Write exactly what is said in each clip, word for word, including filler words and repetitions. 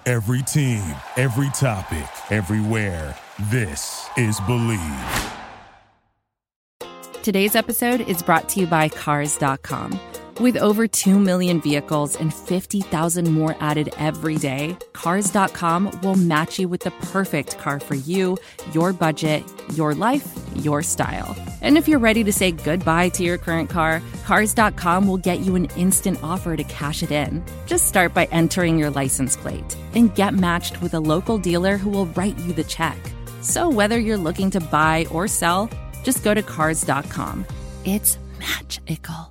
Every team, every topic, everywhere. This is Believe. Today's episode is brought to you by Cars dot com. With over two million vehicles and fifty thousand more added every day, Cars dot com will match you with the perfect car for you, your budget, your life, your style. And if you're ready to say goodbye to your current car, Cars dot com will get you an instant offer to cash it in. Just start by entering your license plate and get matched with a local dealer who will write you the check. So whether you're looking to buy or sell, just go to Cars dot com. It's magical.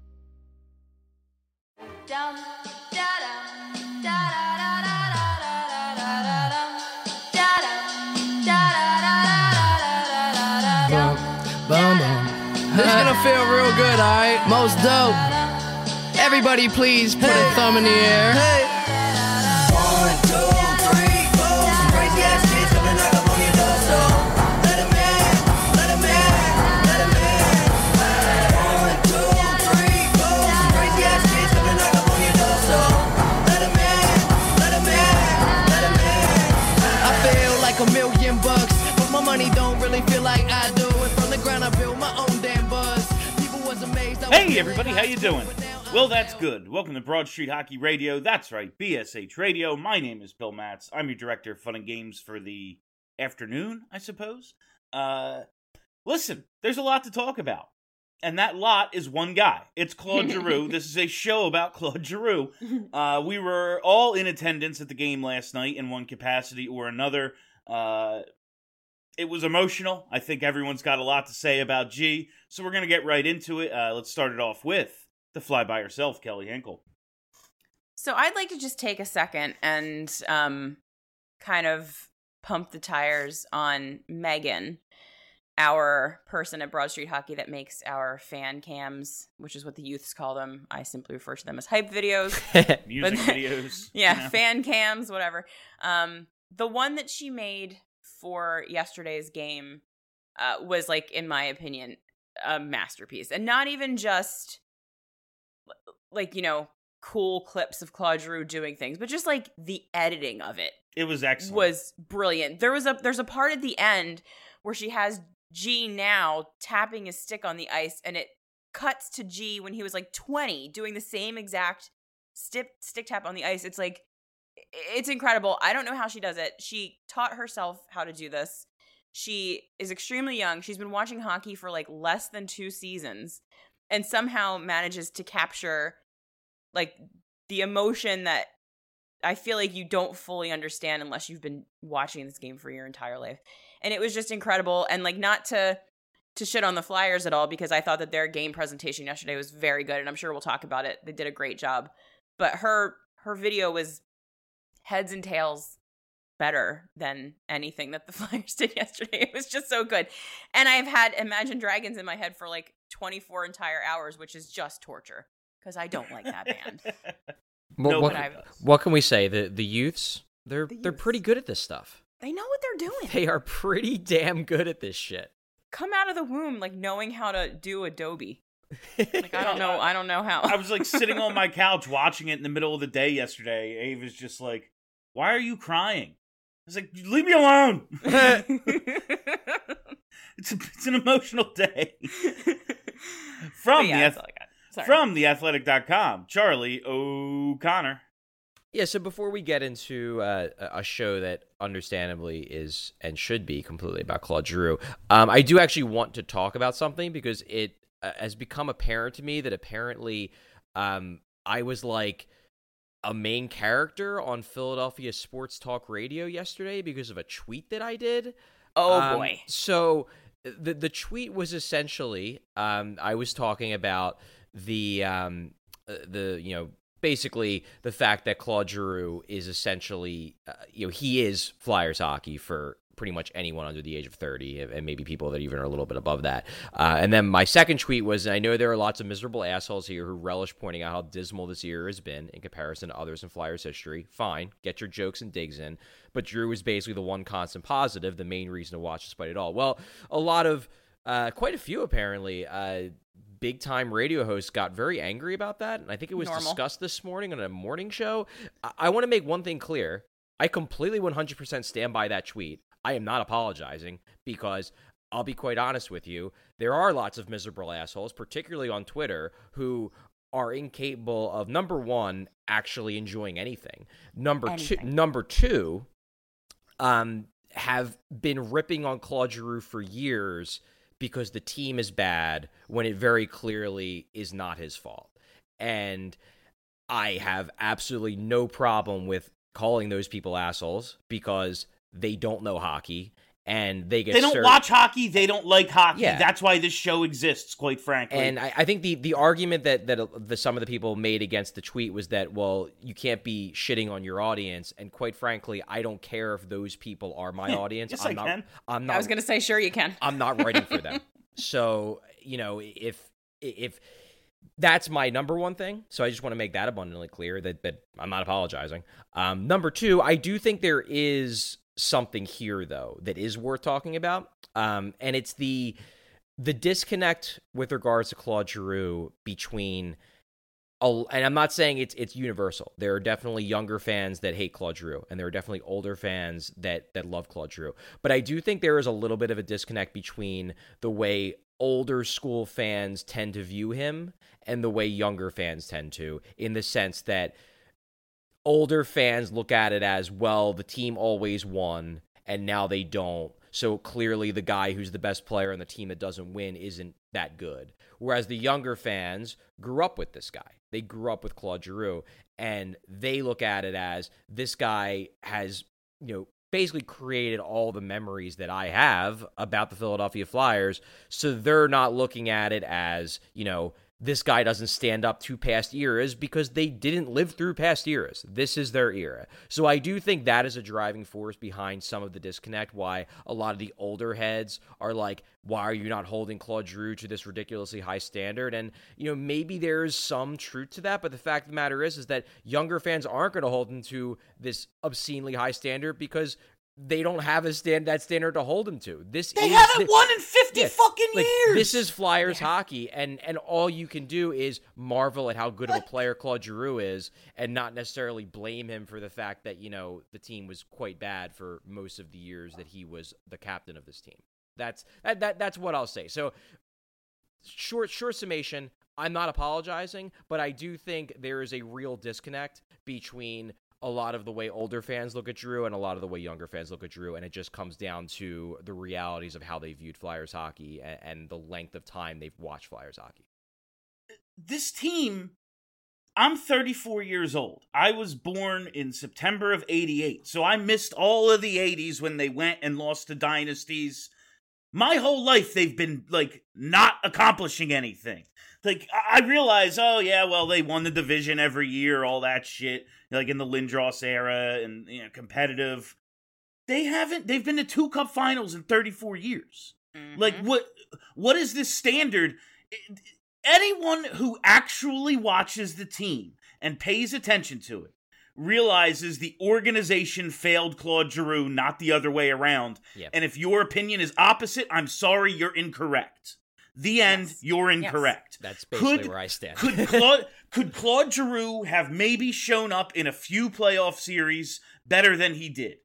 Boom, boom. This is gonna feel real good, alright? Most dope. Everybody please put hey. a thumb in the air. Hey. One, two, three, four. Some crazy ass shit coming knock up on your door. So let him in, let him in, let him in. One, two, three, four. Some crazy ass shit coming knock up on your door. So let him in, let him in, let him in. I feel like a million bucks, but my money don't really feel like I do. I build my own damn buzz. People was amazed. Hey everybody, how you doing? Well, that's good. Welcome to Broad Street Hockey Radio. That's right, B S H Radio. My name is Bill Matz. I'm your director of fun and games for the afternoon, I suppose. Uh, listen, there's a lot to talk about. And that lot is one guy. It's Claude Giroux. This is a show about Claude Giroux. Uh, we were all in attendance at the game last night in one capacity or another. Uh... It was emotional. I think everyone's got a lot to say about G, so we're going to get right into it. Uh, let's start it off with the fly by herself, Kelly Hinkle. So I'd like to just take a second and um, kind of pump the tires on Megan, our person at Broad Street Hockey that makes our fan cams, which is what the youths call them. I simply refer to them as hype videos. Music videos. Yeah, you know. Fan cams, whatever. Um, the one that she made for yesterday's game uh, was, like, in my opinion, a masterpiece. And not even just, like, you know, cool clips of Claude Giroux doing things, but just, like, the editing of it. It was excellent. Was brilliant. There was a There's a part at the end where she has G now tapping his stick on the ice, and it cuts to G when he was, like, twenty, doing the same exact stick, stick tap on the ice. It's, like, it's incredible. I don't know how she does it. She taught herself how to do this. She is extremely young. She's been watching hockey for like less than two seasons and somehow manages to capture like the emotion that I feel like you don't fully understand unless you've been watching this game for your entire life. And it was just incredible. And like not to to shit on the Flyers at all, because I thought that their game presentation yesterday was very good, and I'm sure we'll talk about it. They did a great job. But her her video was heads and tails better than anything that the Flyers did yesterday. It was just so good. And I've had Imagine Dragons in my head for like twenty-four entire hours, which is just torture because I don't like that band. Well, no, what, what can we say? The the youths, they're the they're youths. pretty good at this stuff. They know what they're doing. They are pretty damn good at this shit. Come out of the womb like knowing how to do Adobe. Like I don't know, I don't know how. I was like sitting on my couch watching it in the middle of the day yesterday. Ave was just like, "Why are you crying?" I was like, "Leave me alone." it's a, it's an emotional day. From yeah, the ath- from the athletic dot com, Charlie O'Connor. Yeah, so before we get into uh, a show that understandably is and should be completely about Claude Giroux, um, I do actually want to talk about something because it uh, has become apparent to me that apparently um, I was like a main character on Philadelphia Sports Talk Radio yesterday because of a tweet that I did. Oh, um, boy. So the the tweet was essentially, um, I was talking about the, um, the you know, basically the fact that Claude Giroux is essentially, uh, you know, he is Flyers hockey for pretty much anyone under the age of thirty, and maybe people that even are a little bit above that. Uh, and then my second tweet was, I know there are lots of miserable assholes here who relish pointing out how dismal this year has been in comparison to others in Flyers history. Fine, get your jokes and digs in. But Giroux is basically the one constant positive, the main reason to watch despite it all. Well, a lot of, uh, quite a few apparently, uh, big-time radio hosts got very angry about that, and I think it was Normal. discussed this morning on a morning show. I, I want to make one thing clear. I completely one hundred percent stand by that tweet. I am not apologizing because I'll be quite honest with you. There are lots of miserable assholes, particularly on Twitter, who are incapable of, number one, actually enjoying anything. Number anything. two, number two, um, have been ripping on Claude Giroux for years because the team is bad when it very clearly is not his fault. And I have absolutely no problem with calling those people assholes because they don't know hockey and they get They don't served. watch hockey. They don't like hockey. Yeah. That's why this show exists, quite frankly. And I, I think the, the argument that, that the, some of the people made against the tweet was that, well, you can't be shitting on your audience. And quite frankly, I don't care if those people are my audience. Yes, I'm I not, can. I'm not, I was going to say, sure you can. I'm not writing for them. So, you know, if if that's my number one thing, so I just want to make that abundantly clear that, that I'm not apologizing. Um, number two, I do think there is something here, though, that is worth talking about, um, and it's the the disconnect with regards to Claude Giroux between, and I'm not saying it's it's universal. There are definitely younger fans that hate Claude Giroux, and there are definitely older fans that that love Claude Giroux. But I do think there is a little bit of a disconnect between the way older school fans tend to view him and the way younger fans tend to, in the sense that older fans look at it as, well, the team always won, and now they don't. So clearly the guy who's the best player on the team that doesn't win isn't that good. Whereas the younger fans grew up with this guy. They grew up with Claude Giroux, and they look at it as, this guy has, you know, basically created all the memories that I have about the Philadelphia Flyers. So they're not looking at it as, you know, this guy doesn't stand up to past eras because they didn't live through past eras. This is their era. So I do think that is a driving force behind some of the disconnect, why a lot of the older heads are like, why are you not holding Claude Giroux to this ridiculously high standard? And, you know, maybe there is some truth to that, but the fact of the matter is, is that younger fans aren't going to hold him to this obscenely high standard because they don't have a stand that standard to hold him to. This they is haven't the, won in fifty yeah, fucking like, years. This is Flyers yeah. hockey, and and all you can do is marvel at how good of a player Claude Giroux is, and not necessarily blame him for the fact that, you know, the team was quite bad for most of the years that he was the captain of this team. That's that, that that's what I'll say. So short short summation, I'm not apologizing, but I do think there is a real disconnect between a lot of the way older fans look at Giroux and a lot of the way younger fans look at Giroux, and it just comes down to the realities of how they viewed Flyers hockey and, and the length of time they've watched Flyers hockey. This team, I'm thirty-four years old. I was born in September of eighty-eight, so I missed all of the eighties when they went and lost to dynasties. My whole life, they've been, like, not accomplishing anything. Like, I realize, oh, yeah, well, they won the division every year, all that shit, like in the Lindros era and, you know, competitive. They haven't, they've been to two cup finals in thirty-four years. Mm-hmm. Like, what, what is this standard? Anyone who actually watches the team and pays attention to it realizes the organization failed Claude Giroux, not the other way around. Yep. And if your opinion is opposite, I'm sorry, you're incorrect. The end, yes. You're incorrect. Yes. That's basically could, where I stand. could Claude could Claude Giroux have maybe shown up in a few playoff series better than he did?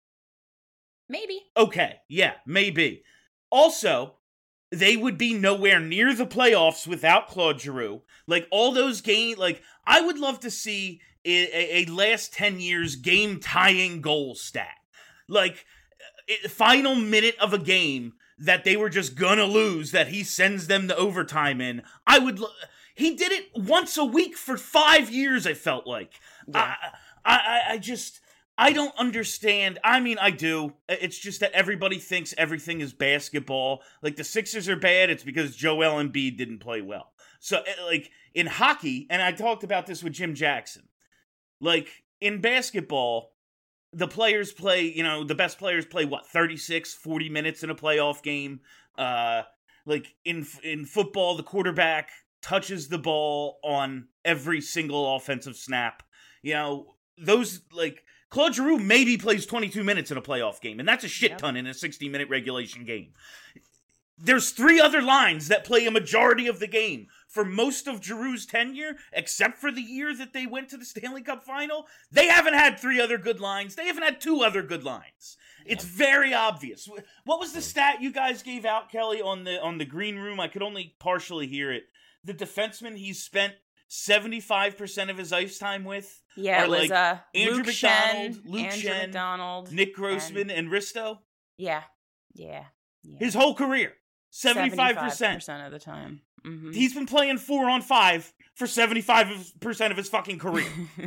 Maybe. Okay, yeah, maybe. Also, they would be nowhere near the playoffs without Claude Giroux. Like, all those games, like, I would love to see a, a last ten years game-tying goal stat. Like, a final minute of a game that they were just gonna lose, that he sends them to overtime in. I would... Lo- he did it once a week for five years, I felt like. Yeah. I, I, I just... I don't understand. I mean, I do. It's just that everybody thinks everything is basketball. Like, the Sixers are bad, it's because Joel Embiid didn't play well. So, like, in hockey, and I talked about this with Jim Jackson, like, in basketball, the players play, you know, the best players play, what, thirty-six, forty minutes in a playoff game? Uh, like, in in football, the quarterback touches the ball on every single offensive snap. You know, those, like, Claude Giroux maybe plays twenty-two minutes in a playoff game, and that's a shit ton yep. in a sixty-minute regulation game. There's three other lines that play a majority of the game. For most of Giroux's tenure, except for the year that they went to the Stanley Cup final, they haven't had three other good lines. They haven't had two other good lines. It's very obvious. What was the stat you guys gave out, Kelly, on the on the green room? I could only partially hear it. The defenseman he's spent seventy-five percent of his ice time with Yeah, are it was like uh, Andrew Luke McDonald, Shen, Luke Andrew Shen, McDonald, Nick Grossman, and, and Risto. yeah, yeah, yeah. His whole career, seventy-five percent of the time. Mm-hmm. He's been playing four on five for seventy-five percent of his fucking career.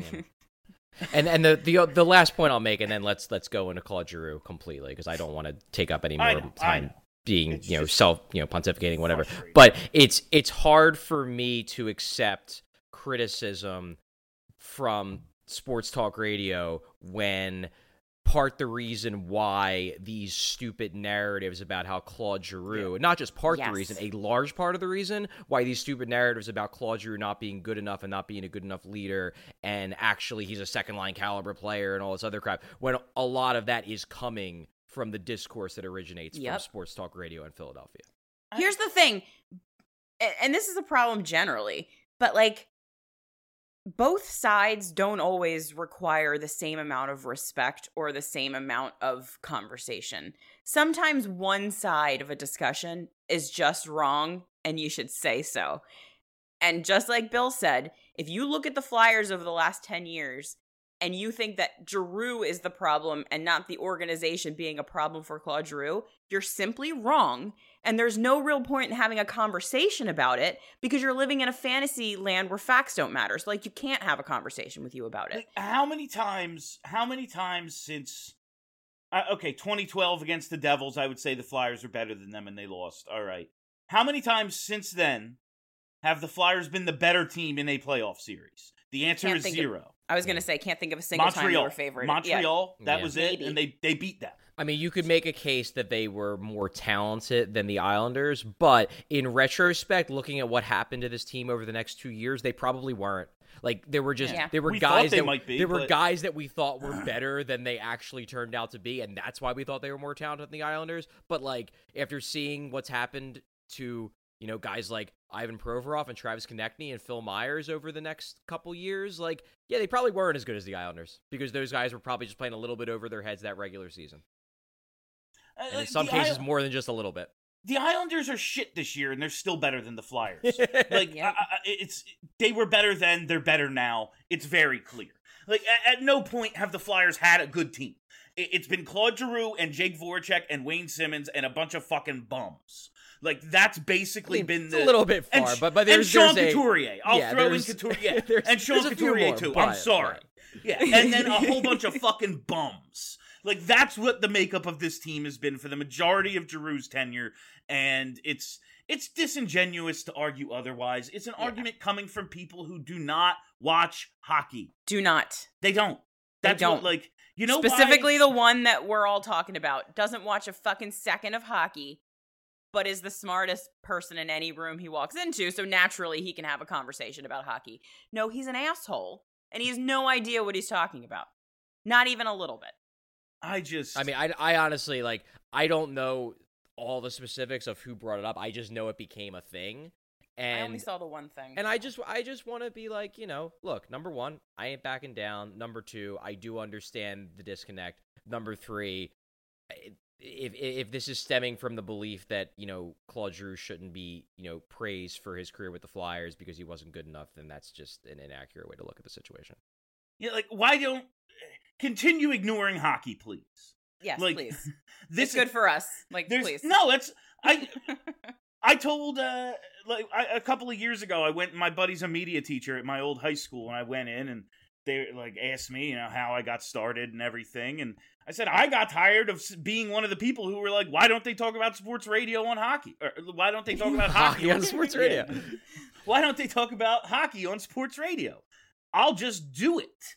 And and the, the the last point I'll make, and then let's let's go into Claude Giroux completely, because I don't want to take up any more I know, time I know. being It's you know just self you know pontificating whatever. frustrating. But it's it's hard for me to accept criticism from sports talk radio when part the reason why these stupid narratives about how Claude Giroux, not just part Yes. the reason, a large part of the reason why these stupid narratives about Claude Giroux not being good enough and not being a good enough leader, and actually he's a second line caliber player and all this other crap, when a lot of that is coming from the discourse that originates from Yep. sports talk radio in Philadelphia. Here's the thing, a- and this is a problem generally, but like, both sides don't always require the same amount of respect or the same amount of conversation. Sometimes one side of a discussion is just wrong, and you should say so. And just like Bill said, if you look at the Flyers over the last ten years and you think that Giroux is the problem and not the organization being a problem for Claude Giroux, you're simply wrong. And there's no real point in having a conversation about it because you're living in a fantasy land where facts don't matter. So, like, you can't have a conversation with you about it. Like, how many times, how many times since, uh, okay, twenty twelve against the Devils, I would say the Flyers are better than them and they lost. All right. How many times since then have the Flyers been the better team in a playoff series? The answer Can't is think zero. Of, I was going to say, can't think of a single time they Montreal. were favored. Montreal, Yeah. that Yeah. was it, Maybe. and they, they beat them. I mean, you could make a case that they were more talented than the Islanders, but in retrospect, looking at what happened to this team over the next two years, they probably weren't. Like, there were just Yeah. there were We thought guys they that might be, there were but- guys that we thought were better than they actually turned out to be, and that's why we thought they were more talented than the Islanders. But like, after seeing what's happened to, you know, guys like Ivan Provorov and Travis Konechny and Phil Myers over the next couple years, like, yeah, they probably weren't as good as the Islanders because those guys were probably just playing a little bit over their heads that regular season. Uh, And in like, some the cases, Isle- more than just a little bit. The Islanders are shit this year, and they're still better than the Flyers. Like, Yep. I, I, it's they were better then, they're better now. It's very clear. Like, at, at no point have the Flyers had a good team. It, it's been Claude Giroux and Jake Voracek and Wayne Simmons and a bunch of fucking bums. Like, that's basically I mean, been it's the a little bit and far, Sh- but but there's and Sean there's a- Couturier. I'll yeah, throw in there's- Couturier, there's- and Sean there's a few Couturier more, too. but- I'm sorry. right. Yeah, and then a whole bunch of fucking bums. Like, that's what the makeup of this team has been for the majority of Giroux's tenure, and it's it's disingenuous to argue otherwise. It's an Yeah. argument coming from people who do not watch hockey. Do not. They don't. They That's don't. what, like, you know, Specifically, why? the one that we're all talking about doesn't watch a fucking second of hockey, but is the smartest person in any room he walks into, so naturally he can have a conversation about hockey. No, he's an asshole, and he has no idea what he's talking about. Not even a little bit. I just. I mean, I, I honestly, like, I don't know all the specifics of who brought it up. I just know it became a thing. And I only saw the one thing. And I just I just want to be like, you know, look, number one, I ain't backing down. Number two, I do understand the disconnect. Number three, if if this is stemming from the belief that, you know, Claude Giroux shouldn't be, you know, praised for his career with the Flyers because he wasn't good enough, then that's just an inaccurate way to look at the situation. Yeah, like, why don't. Continue ignoring hockey, please. yes, Like, please. This It's good for us. Like, There's please. no. That's I. I told uh like I, a couple of years ago. I went. My buddy's a media teacher at my old high school, and I went in and they like asked me, you know, how I got started and everything, and I said I got tired of s- being one of the people who were like, why don't they talk about sports radio on hockey? Or why don't they talk about hockey, Hockey on sports radio. Yeah. Why don't they talk about hockey on sports radio? I'll just do it.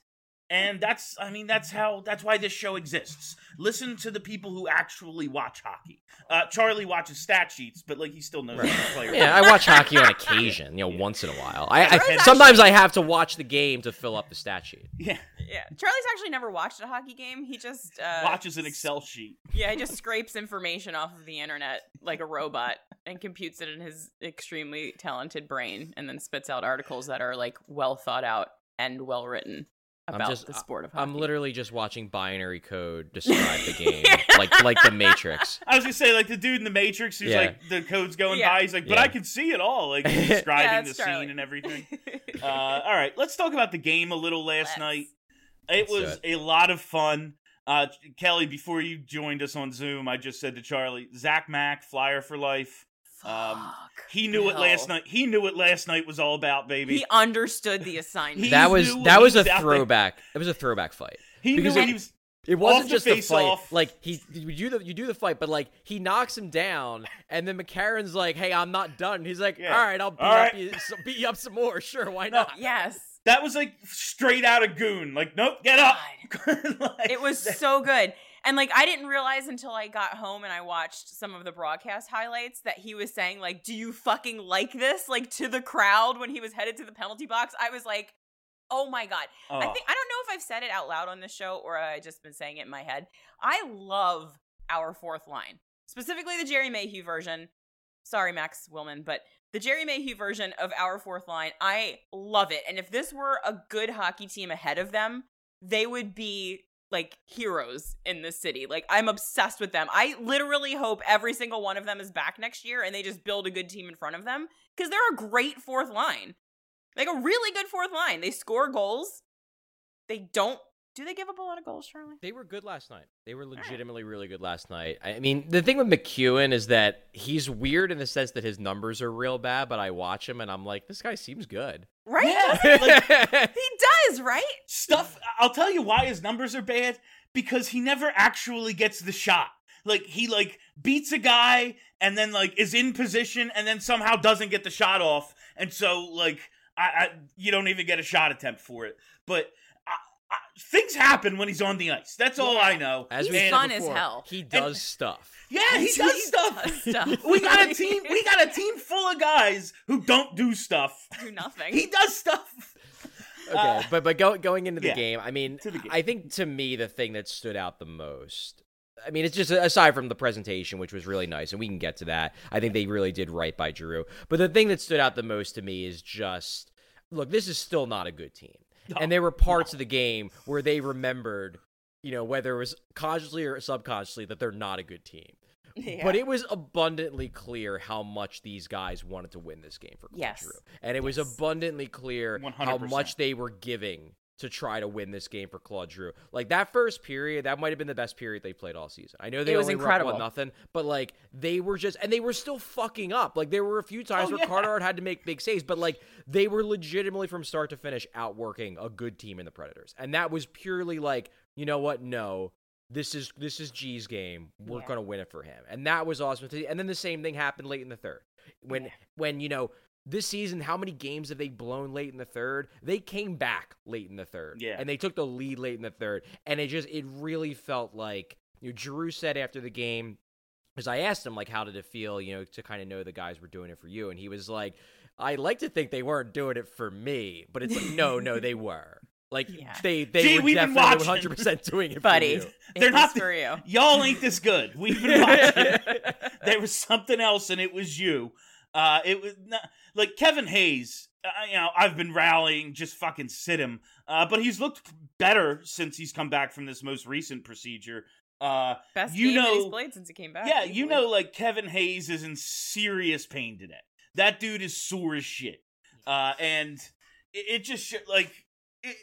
And that's, I mean, that's how, that's why this show exists. Listen to the people who actually watch hockey. Uh, Charlie watches stat sheets, but like he still knows Right. the player. Yeah, I watch hockey on occasion, you know, Yeah. once in a while. I, I Charlie's sometimes actually- I have to watch the game to fill up the stat sheet. Yeah. Yeah, Charlie's actually never watched a hockey game. He just uh, Watches an Excel sheet. Yeah, he just scrapes information off of the internet like a robot and computes it in his extremely talented brain, and then spits out articles that are like well thought out and well written I'm about just- the sport of hockey. I'm literally just watching binary code describe the game, like like the Matrix. I was gonna say, like the dude in the Matrix who's Yeah. like the code's going Yeah. by. He's like, but Yeah. I can see it all, like he's Yeah, describing that's the Charlie. scene and everything. Uh, all right, let's talk about the game a little last Let's. night. It Let's do was it. a lot of fun. Uh, Kelly, before you joined us on Zoom, I just said to Charlie, Zach Mack, Flyer for life. Um, Fuck, he knew it last Bill. night. He knew what last night was all about, baby. He understood the assignment. He That was knew that was a he's out there. throwback. It was a throwback fight. He because knew it- what he was. It wasn't Off the just the face fight. off. Like he, you do the you do the fight, but like he knocks him down, and then McCarron's like, "Hey, I'm not done." He's like, Yeah. "All right, I'll beat All up right. you, so beat you up some more. Sure, why No. not?" Yes. That was like straight out of Goon. Like, nope, get up. Like, It was so good. And like I didn't realize until I got home and I watched some of the broadcast highlights that he was saying like, "Do you fucking like this?" like to the crowd when he was headed to the penalty box. I was like, "Oh my god." Oh. I think I don't know if I've said it out loud on this show or I just been saying it in my head. I love our fourth line. Specifically the Jerry Mayhew version. Sorry, Max Willman, but the Jerry Mayhew version of our fourth line, I love it. And if this were a good hockey team ahead of them, they would be like heroes in this city. Like I'm obsessed with them. I literally hope every single one of them is back next year and they just build a good team in front of them because they're a great fourth line. Like a really good fourth line. They score goals. They don't. Do they give up a lot of goals, Charlie? They were good last night. They were legitimately really good last night. I mean, the thing with McEwen is that he's weird in the sense that his numbers are real bad, but I watch him and I'm like, this guy seems good. Right? Yeah, like, He does, right? stuff. I'll tell you why his numbers are bad, because he never actually gets the shot. Like he like beats a guy and then like is in position and then somehow doesn't get the shot off, and so like I, I you don't even get a shot attempt for it. But I, I, things happen when he's on the ice. That's all Yeah. I know. As He's we said fun as before, hell. He does stuff. Yeah, he He does stuff. does stuff. We got a team. We got a team full of guys who don't do stuff. Do nothing. He does stuff. Okay, Uh, but but go, going into the yeah, game, I mean, to the game. I think to me the thing that stood out the most, I mean, it's just aside from the presentation, which was really nice, and we can get to that. I think they really did right by Giroux. But the thing that stood out the most to me is just, look, this is still not a good team, No, and there were parts of the game where they remembered, you know, whether it was consciously or subconsciously, that they're not a good team. Yeah. But it was abundantly clear how much these guys wanted to win this game for Claude Yes. Giroux. And it was Yes. abundantly clear one how hundred percent. much they were giving to try to win this game for Claude Giroux. Like that first period, that might have been the best period they played all season. I know they It was only were up incredible. one nothing, but like they were just, and they were still fucking up. Like there were a few times Oh, where yeah. Carter had to make big saves, but like they were legitimately from start to finish outworking a good team in the Predators. And that was purely like, you know what? No. This is this is G's game. We're Yeah. gonna win it for him, and that was awesome. To see. And then the same thing happened late in the third, when Yeah. when you know this season, how many games have they blown late in the third? They came back late in the third, Yeah. and they took the lead late in the third, and it just it really felt like, you know, Giroux said after the game, because I asked him like, how did it feel, you know, to kind of know the guys were doing it for you, and he was like, I like to think they weren't doing it for me, but it's like, no, no, they were. Like Yeah. they they Gee, were we've been definitely watching. one hundred percent doing it Buddy. for you. They're It not was for you. Y'all ain't this good. We've been watching. There was something else, and it was you. Uh, it was not, like Kevin Hayes. Uh, you know, I've been rallying, just fucking sit him. Uh, but he's looked better since he's come back from this most recent procedure. Uh, Best you game that he's know, played since he came back. yeah, you easily. know, like Kevin Hayes is in serious pain today. That dude is sore as shit. Uh, and it, it just sh- like it,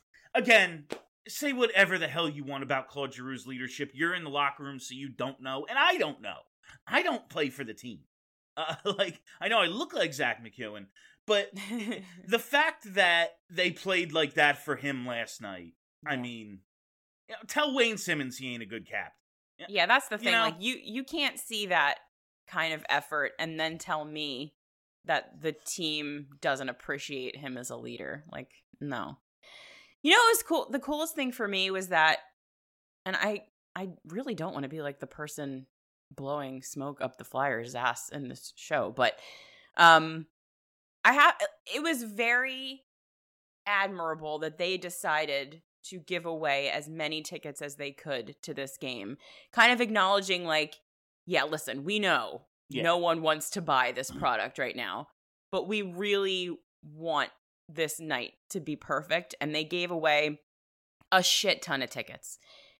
again. Say whatever the hell you want about Claude Giroux's leadership. You're in the locker room, so you don't know, and I don't know. I don't play for the team. Uh, like I know I look like Zach McEwen, but the fact that they played like that for him last night, I Yeah. mean, you know, tell Wayne Simmons he ain't a good captain. Yeah, that's the You thing. know? Like you you can't see that kind of effort and then tell me that the team doesn't appreciate him as a leader. Like, no. You know, it was cool. The coolest thing for me was that, and I, I really don't want to be like the person blowing smoke up the Flyers' ass in this show, but um, I have. It was very admirable that they decided to give away as many tickets as they could to this game, kind of acknowledging like, yeah, listen, we know yeah. no one wants to buy this product right now, but we really want this night to be perfect. And they gave away a shit ton of tickets.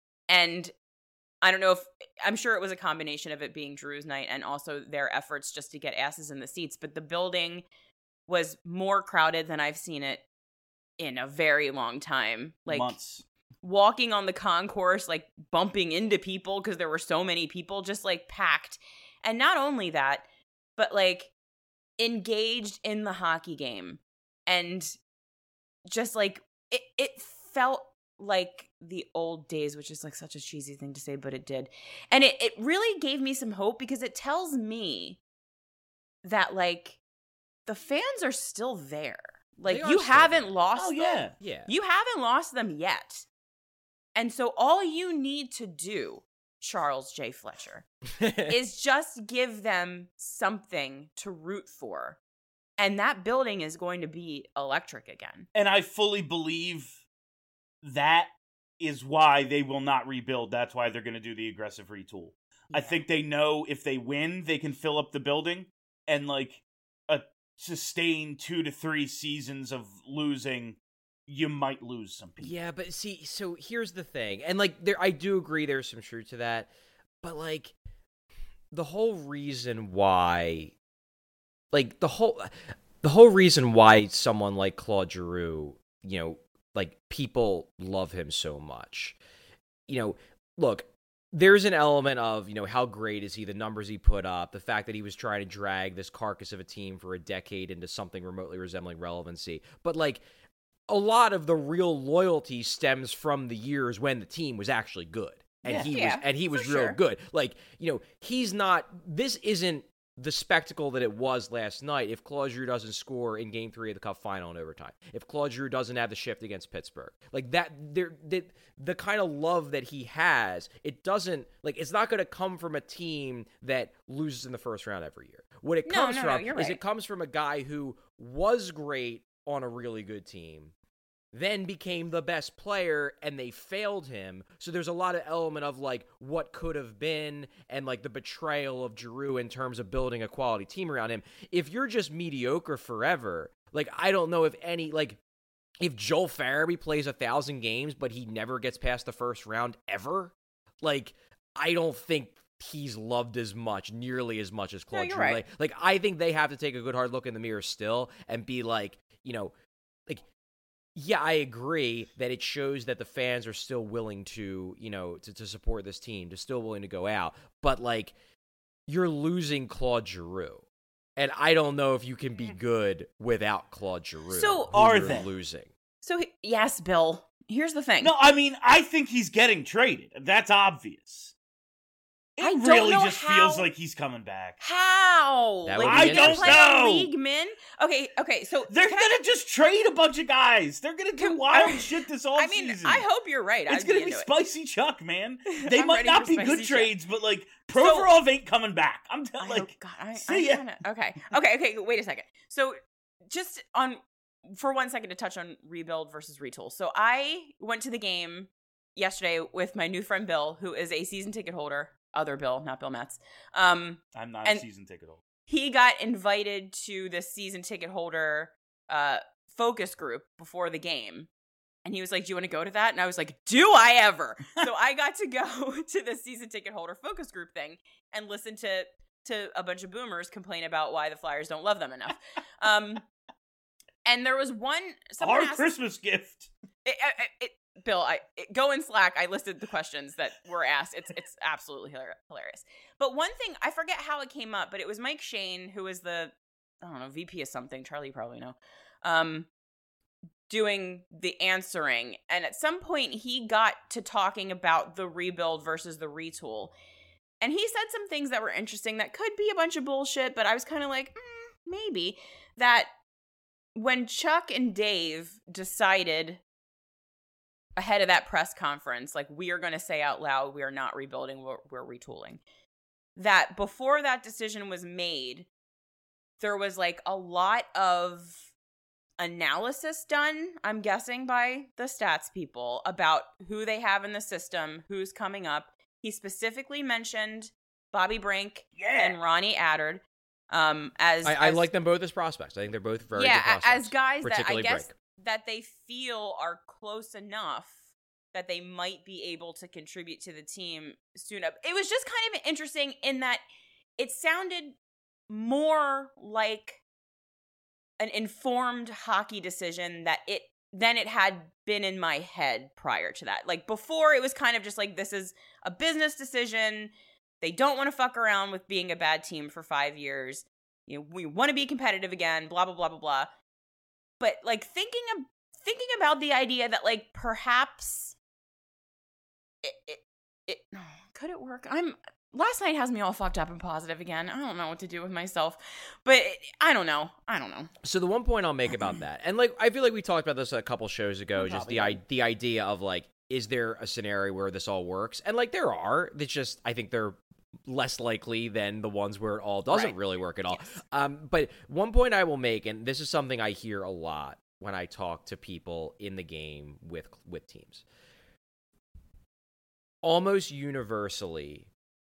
And I don't know if, I'm sure it was a combination of it being Drew's night and also their efforts just to get asses in the seats, but the building was more crowded than I've seen it in a very long time. Like months. Walking on the concourse, like bumping into people because there were so many people, just like packed. And not only that, but like engaged in the hockey game. And just like it, it felt like the old days, which is like such a cheesy thing to say, but it did. And it, it really gave me some hope because it tells me that like the fans are still there. Like, you haven't there. lost oh, them. Yeah. yeah. You haven't lost them yet. And so all you need to do, Charles J. Fletcher, is just give them something to root for. And that building is going to be electric again. And I fully believe that is why they will not rebuild. That's why they're going to do the aggressive retool. Yeah. I think they know if they win, they can fill up the building and, like, a sustain two to three seasons of losing, you might lose some people. Yeah, but see, so here's the thing. And, like, there, I do agree there's some truth to that. But, like, the whole reason why, like, the whole, the whole reason why someone like Claude Giroux, you know, like, people love him so much. You know, look, there's an element of, you know, how great is he, the numbers he put up, the fact that he was trying to drag this carcass of a team for a decade into something remotely resembling relevancy. But, like, a lot of the real loyalty stems from the years when the team was actually good. And yeah, he yeah, was and he was real sure. good. Like, you know, he's not, this isn't the spectacle that it was last night if Claude Giroux doesn't score in Game Three of the Cup Final in overtime. If Claude Giroux doesn't have the shift against Pittsburgh, like that, there, the, the kind of love that he has, it doesn't like it's not going to come from a team that loses in the first round every year. What it no, comes no, from no, is right. it comes from a guy who was great on a really good team, then became the best player and they failed him. So there's a lot of element of like what could have been and like the betrayal of Giroux in terms of building a quality team around him. If you're just mediocre forever, like I don't know if any, like if Joel Farabee plays a thousand games, but he never gets past the first round ever, like I don't think he's loved as much, nearly as much as Claude no, Giroux. right. Like, like I think they have to take a good hard look in the mirror still and be like, you know, like, yeah, I agree that it shows that the fans are still willing to, you know, to, to support this team, to still willing to go out. But, like, you're losing Claude Giroux. And I don't know if you can be good without Claude Giroux. So, are you're they? losing. So, yes, Bill, here's the thing. No, I mean, I think he's getting traded. That's obvious. It I don't really know just how- feels like he's coming back. How? That like, would be he's gonna interesting. play I don't a know. league min? Okay, okay, so They're can gonna I, just trade a bunch of guys. They're gonna do Can- wild I- shit this offseason. I mean, I hope you're right. It's I'd gonna be be into it. spicy Chuck, man. They I'm might ready not for be spicy good Chuck. trades, but like So- Provorov ain't coming back. I'm t- I like, hope- God, I, see I ya. kinda, okay, okay, okay. Wait a second. So, just on for one second to touch on rebuild versus retool. So, I went to the game yesterday with my new friend Bill, who is a season ticket holder. Other Bill, not Bill Metz. Um, I'm not and- a season ticket holder. he got invited to the season ticket holder uh, focus group before the game. And he was like, do you want to go to that? And I was like, do I ever? So I got to go to the season ticket holder focus group thing and listen to to a bunch of boomers complain about why the Flyers don't love them enough. Um, and there was one... someone Our asked- Christmas gift. It, it, it, Bill, I it, go in Slack. I listed the questions that were asked. It's it's absolutely hilar- hilarious. But one thing, I forget how it came up, but it was Mike Shane, who was the, I don't know, V P of something. Charlie, you probably know. Um, doing the answering. And at some point, he got to talking about the rebuild versus the retool. And he said some things that were interesting that could be a bunch of bullshit, but I was kind of like, mm, maybe. That when Chuck and Dave decided ahead of that press conference, like, we are going to say out loud, we are not rebuilding, we're, we're retooling. That before that decision was made, there was like a lot of analysis done, I'm guessing, by the stats people about who they have in the system, who's coming up. He specifically mentioned Bobby Brink yeah. and Ronnie Attard. Um, as I, I as, like them both as prospects. I think they're both very yeah, good prospects. as guys that I guess Brink. that they feel are close enough that they might be able to contribute to the team soon up. It was just kind of interesting in that it sounded more like an informed hockey decision that it than it had been in my head prior to that. Like, before, it was kind of just like, this is a business decision. They don't want to fuck around with being a bad team for five years. You know, we want to be competitive again, blah, blah, blah, blah, blah. But, like, thinking of, thinking about the idea that, like, perhaps it, it, it could it work? I'm last night has me all fucked up and positive again. I don't know what to do with myself, but it, I don't know. I don't know. So the one point I'll make about that, and like I feel like we talked about this a couple shows ago, just the I, the idea of like, is there a scenario where this all works? And like there are. It's just I think they're less likely than the ones where it all doesn't Right. really work at all. Yes. Um, but one point I will make, and this is something I hear a lot when I talk to people in the game with with teams. Almost universally,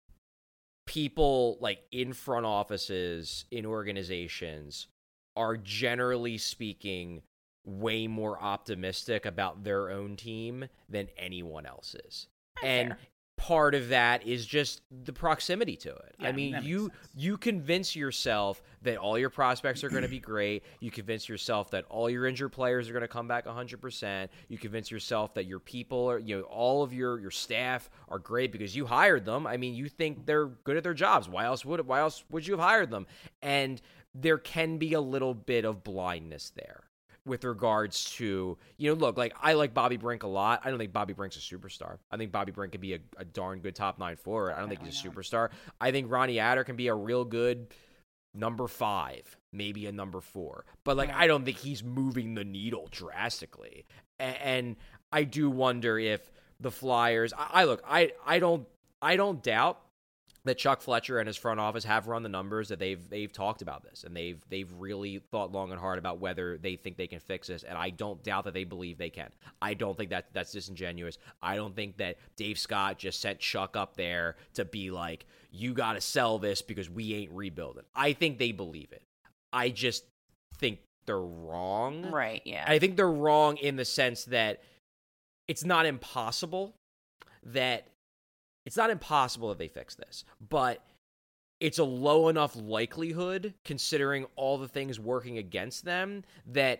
people like in front offices, in organizations, are generally speaking way more optimistic about their own team than anyone else is. That's and fair. part of that is just the proximity to it. Yeah, I mean, that makes you sense. you convince yourself that all your prospects are going to be great. You convince yourself that all your injured players are going to come back one hundred percent. You convince yourself that your people are, you know, all of your your staff are great because you hired them. I mean, you think they're good at their jobs. Why else would why else would you have hired them? And there can be a little bit of blindness there with regards to, you know, look, like, I like Bobby Brink a lot. I don't think Bobby Brink's a superstar. I think Bobby Brink can be a, a darn good top nine forward. I don't think he's a superstar. I think Ronnie Attard can be a real good number five, maybe a number four. But, like, I don't think he's moving the needle drastically. And, and I do wonder if the Flyers, I, I look, I, I don't, I don't doubt that Chuck Fletcher and his front office have run the numbers, that they've they've talked about this, and they've they've really thought long and hard about whether they think they can fix this, and I don't doubt that they believe they can. I don't think that that's disingenuous. I don't think that Dave Scott just sent Chuck up there to be like, you got to sell this because we ain't rebuilding. I think they believe it. I just think they're wrong. Right, yeah. I think they're wrong in the sense that it's not impossible that It's not impossible that they fix this, but it's a low enough likelihood, considering all the things working against them, that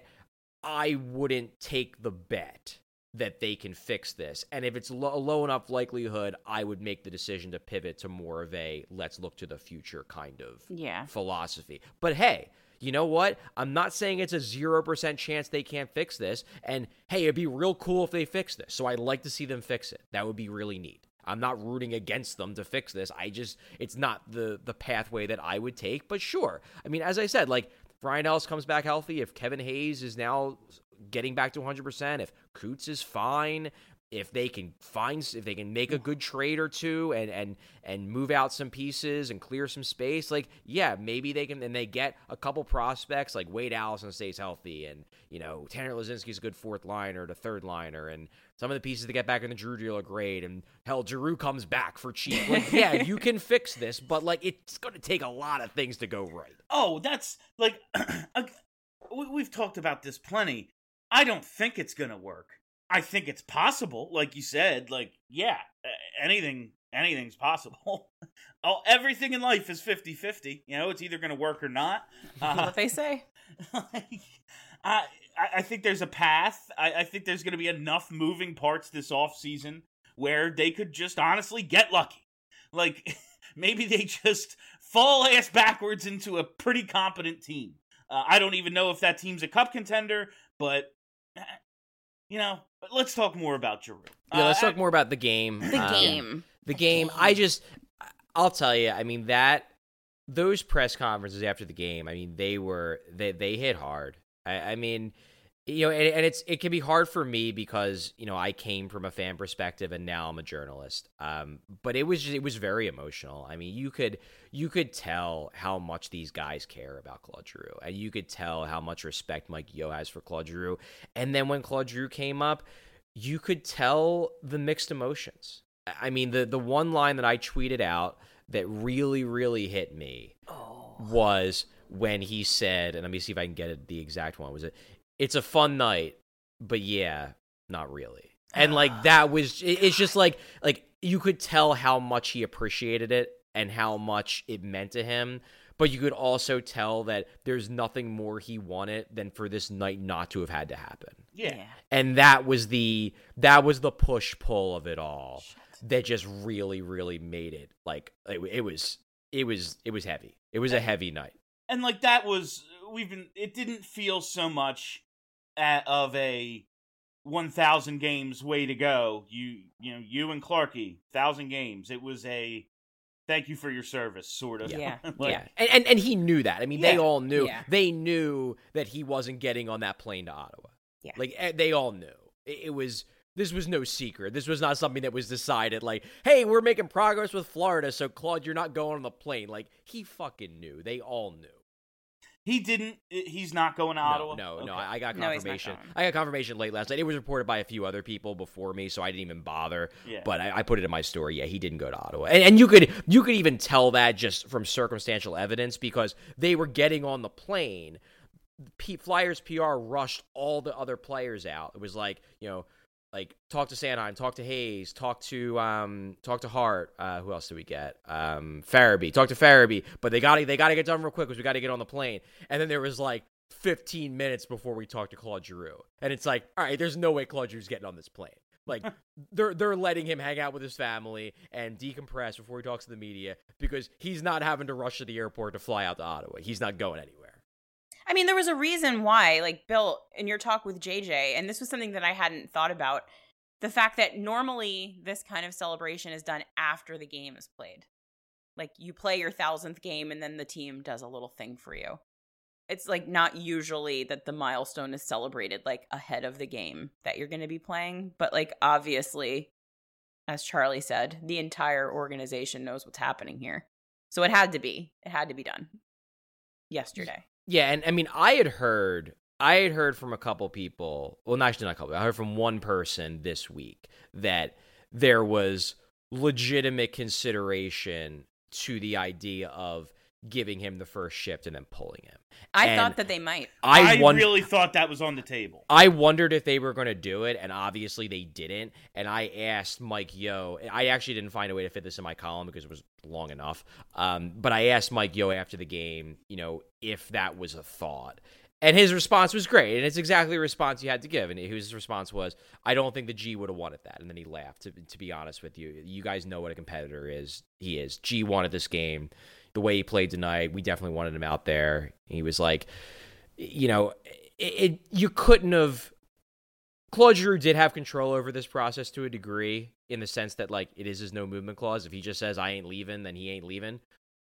I wouldn't take the bet that they can fix this. And if it's lo- a low enough likelihood, I would make the decision to pivot to more of a let's look to the future kind of Yeah. philosophy. But hey, you know what? I'm not saying it's a zero percent chance they can't fix this. And hey, it'd be real cool if they fix this. So I'd like to see them fix it. That would be really neat. I'm not rooting against them to fix this. I just, it's not the the pathway that I would take, but sure. I mean, as I said, like, if Ryan Ellis comes back healthy, if Kevin Hayes is now getting back to one hundred percent, if Coots is fine, if they can find, if they can make a good trade or two and and and move out some pieces and clear some space, like, yeah, maybe they can, and they get a couple prospects, like Wade Allison stays healthy, and, you know, Tanner Lazinski's a good fourth liner to third liner, and some of the pieces to get back in the Drew deal are great, and hell, Giroux comes back for cheap. Like, yeah, you can fix this, but, like, it's going to take a lot of things to go right. Oh, that's like we- we've talked about this plenty. I don't think it's gonna work. I think it's possible, like you said. Like, yeah, anything, anything's possible. Oh, everything in life is fifty-fifty. You know, it's either gonna work or not. Uh, what they say. like, I, I think there's a path. I, I think there's gonna be enough moving parts this offseason where they could just honestly get lucky. Like, maybe they just fall ass backwards into a pretty competent team. Uh, I don't even know if that team's a cup contender, but, you know, let's talk more about Giroux. Yeah, let's Uh, talk more about the game. The Um, game. The game, I just, I'll tell you, I mean, that, those press conferences after the game, I mean, they were, they, they hit hard. I, I mean, You know, and, and it's it can be hard for me because, you know, I came from a fan perspective and now I'm a journalist. Um, but it was just, it was very emotional. I mean, you could you could tell how much these guys care about Claude Giroux, and you could tell how much respect Mike Yeo has for Claude Giroux. And then when Claude Giroux came up, you could tell the mixed emotions. I mean, the the one line that I tweeted out that really really hit me oh. was when he said, and let me see if I can get it, the exact one. Was it? It's a fun night, but yeah, not really. And like that was, it's just like, like you could tell how much he appreciated it and how much it meant to him. But you could also tell that there's nothing more he wanted than for this night not to have had to happen. Yeah. And that was the, that was the push pull of it all Shit. that just really, really made it like, it, it was, it was, it was heavy. It was a heavy night. And like that was, we've been, it didn't feel so much at, of a one thousand games way to go. You, you know, you and Clarky, one thousand games. It was a thank you for your service, sort of. Yeah. like, yeah. And, and and he knew that. I mean, yeah. they all knew. Yeah. They knew that he wasn't getting on that plane to Ottawa. Yeah. Like, they all knew. It, it was, this was no secret. This was not something that was decided like, hey, we're making progress with Florida, so Claude, you're not going on the plane. Like, he fucking knew. They all knew. He didn't. He's not going to no, Ottawa? No, okay. no. I got No, confirmation. I got confirmation late last night. It was reported by a few other people before me, so I didn't even bother. Yeah. But I, I put it in my story. Yeah, he didn't go to Ottawa. And, and you could you could even tell that just from circumstantial evidence because they were getting on the plane. P- Flyers P R rushed all the other players out. It was like, you know, like talk to Sanheim, talk to Hayes, talk to um, talk to Hart. Uh, who else did we get? Um, Farabee. Talk to Farabee. But they got to they got to get done real quick because we got to get on the plane. And then there was like fifteen minutes before we talked to Claude Giroux, and it's like, all right, there's no way Claude Giroux's getting on this plane. Like they're they're letting him hang out with his family and decompress before he talks to the media because he's not having to rush to the airport to fly out to Ottawa. He's not going anywhere. I mean, there was a reason why, like, Bill, in your talk with J J, and this was something that I hadn't thought about, the fact that normally this kind of celebration is done after the game is played. Like, you play your thousandth game, and then the team does a little thing for you. It's, like, not usually that the milestone is celebrated, like, ahead of the game that you're going to be playing. But, like, obviously, as Charlie said, the entire organization knows what's happening here. So it had to be. It had to be done yesterday. Yeah, and I mean, I had heard, I had heard from a couple people. Well, not actually not a couple. I heard from one person this week that there was legitimate consideration to the idea of giving him the first shift and then pulling him. I and thought that they might. I, I won- really thought that was on the table. I wondered if they were going to do it, and obviously they didn't. And I asked Mike Yeo. I actually didn't find a way to fit this in my column because it was long enough. Um, but I asked Mike Yeo after the game, you know, if that was a thought. And his response was great, and it's exactly the response you had to give. And his response was, I don't think the G would have wanted that. And then he laughed, to, to be honest with you. You guys know what a competitor is. He is. G wanted this game. The way he played tonight, we definitely wanted him out there. He was like, you know, it, it you couldn't have... Claude Giroux did have control over this process to a degree, in the sense that, like, it is his no movement clause. If he just says, I ain't leaving, then he ain't leaving.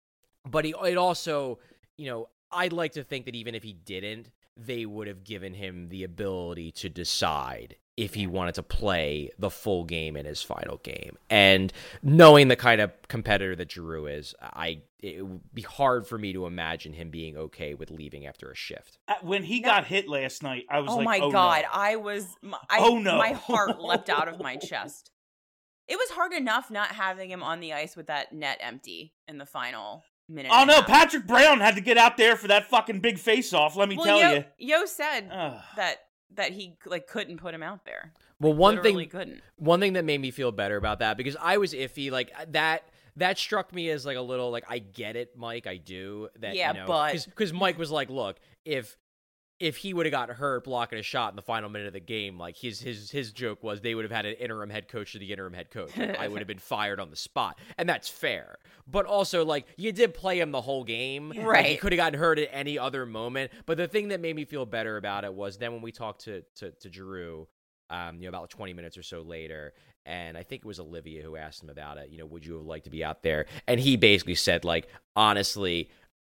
But he, it also, you know, I'd like to think that even if he didn't, they would have given him the ability to decide if he wanted to play the full game in his final game. And knowing the kind of competitor that Giroux is, I it would be hard for me to imagine him being okay with leaving after a shift. Uh, When he got hit last night, I was Oh like, my oh God. no. I was, I, Oh, no. my heart leapt out of my chest. It was hard enough not having him on the ice with that net empty in the final minute. Oh and a no, half. Patrick Brown had to get out there for that fucking big face-off, let me Well, tell Yo, you. Yo said Ugh. that that he like couldn't put him out there. Well, one Literally thing, couldn't. one thing that made me feel better about that, because I was iffy, like that. That struck me as like a little like, I get it, Mike, I do. That, Yeah, you know, but- because Mike was like, look, if if he would have got hurt blocking a shot in the final minute of the game, like his his his joke was they would have had an interim head coach to the interim head coach. Like, I would have been fired on the spot, and that's fair. But also, like, you did play him the whole game, Like, he Right. could have gotten hurt at any other moment. But the thing that made me feel better about it was then when we talked to to, to Giroux, um, you know, about twenty minutes or so later, and I think it was Olivia who asked him about it. You know, would you have liked to be out there? And he basically said, like, honestly,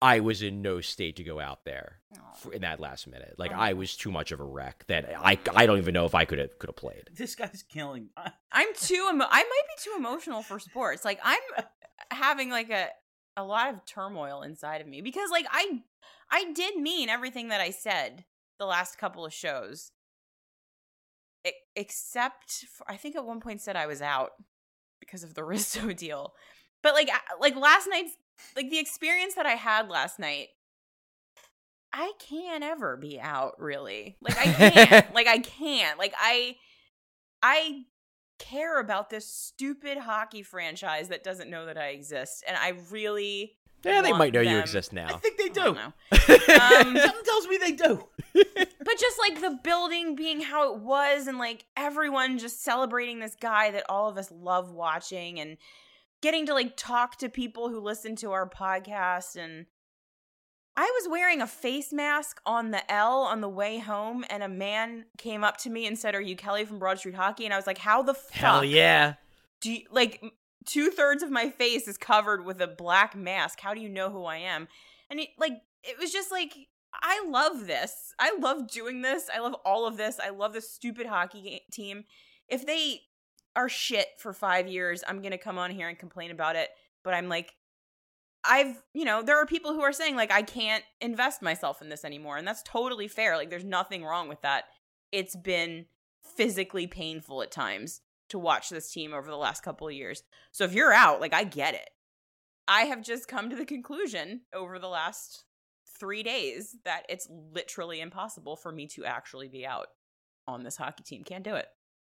I was in no state to go out there for, in that last minute. Like, I was too much of a wreck that I, I don't even know if I could have could have played. This guy's killing. I'm too. Emo- I might be too emotional for sports. Like, I'm having like a a lot of turmoil inside of me because, like, I I did mean everything that I said the last couple of shows, I- except for, I think at one point said I was out because of the Rizzo deal. But like, I- like last night's. Like, the experience that I had last night, I can't ever be out, really. Like, I can't. like, I can't. Like, I, I care about this stupid hockey franchise that doesn't know that I exist. And I really Yeah, they want might know them. you exist now. I think they I do. don't know. Um, Something tells me they do. But just, like, the building being how it was and, like, everyone just celebrating this guy that all of us love watching and getting to, like, talk to people who listen to our podcast. And I was wearing a face mask on the L on the way home, and a man came up to me and said, "Are you Kelly from Broad Street Hockey?" And I was like, how the fuck? Hell yeah. Do you, like, two-thirds of my face is covered with a black mask. How do you know who I am? And, it, like, it was just like, I love this. I love doing this. I love all of this. I love this stupid hockey ga- team. If they are shit for five years, I'm going to come on here and complain about it. But I'm like, I've, you know, there are people who are saying, like, I can't invest myself in this anymore. And that's totally fair. Like, there's nothing wrong with that. It's been physically painful at times to watch this team over the last couple of years. So if you're out, like, I get it. I have just come to the conclusion over the last three days that it's literally impossible for me to actually be out on this hockey team. Can't do it.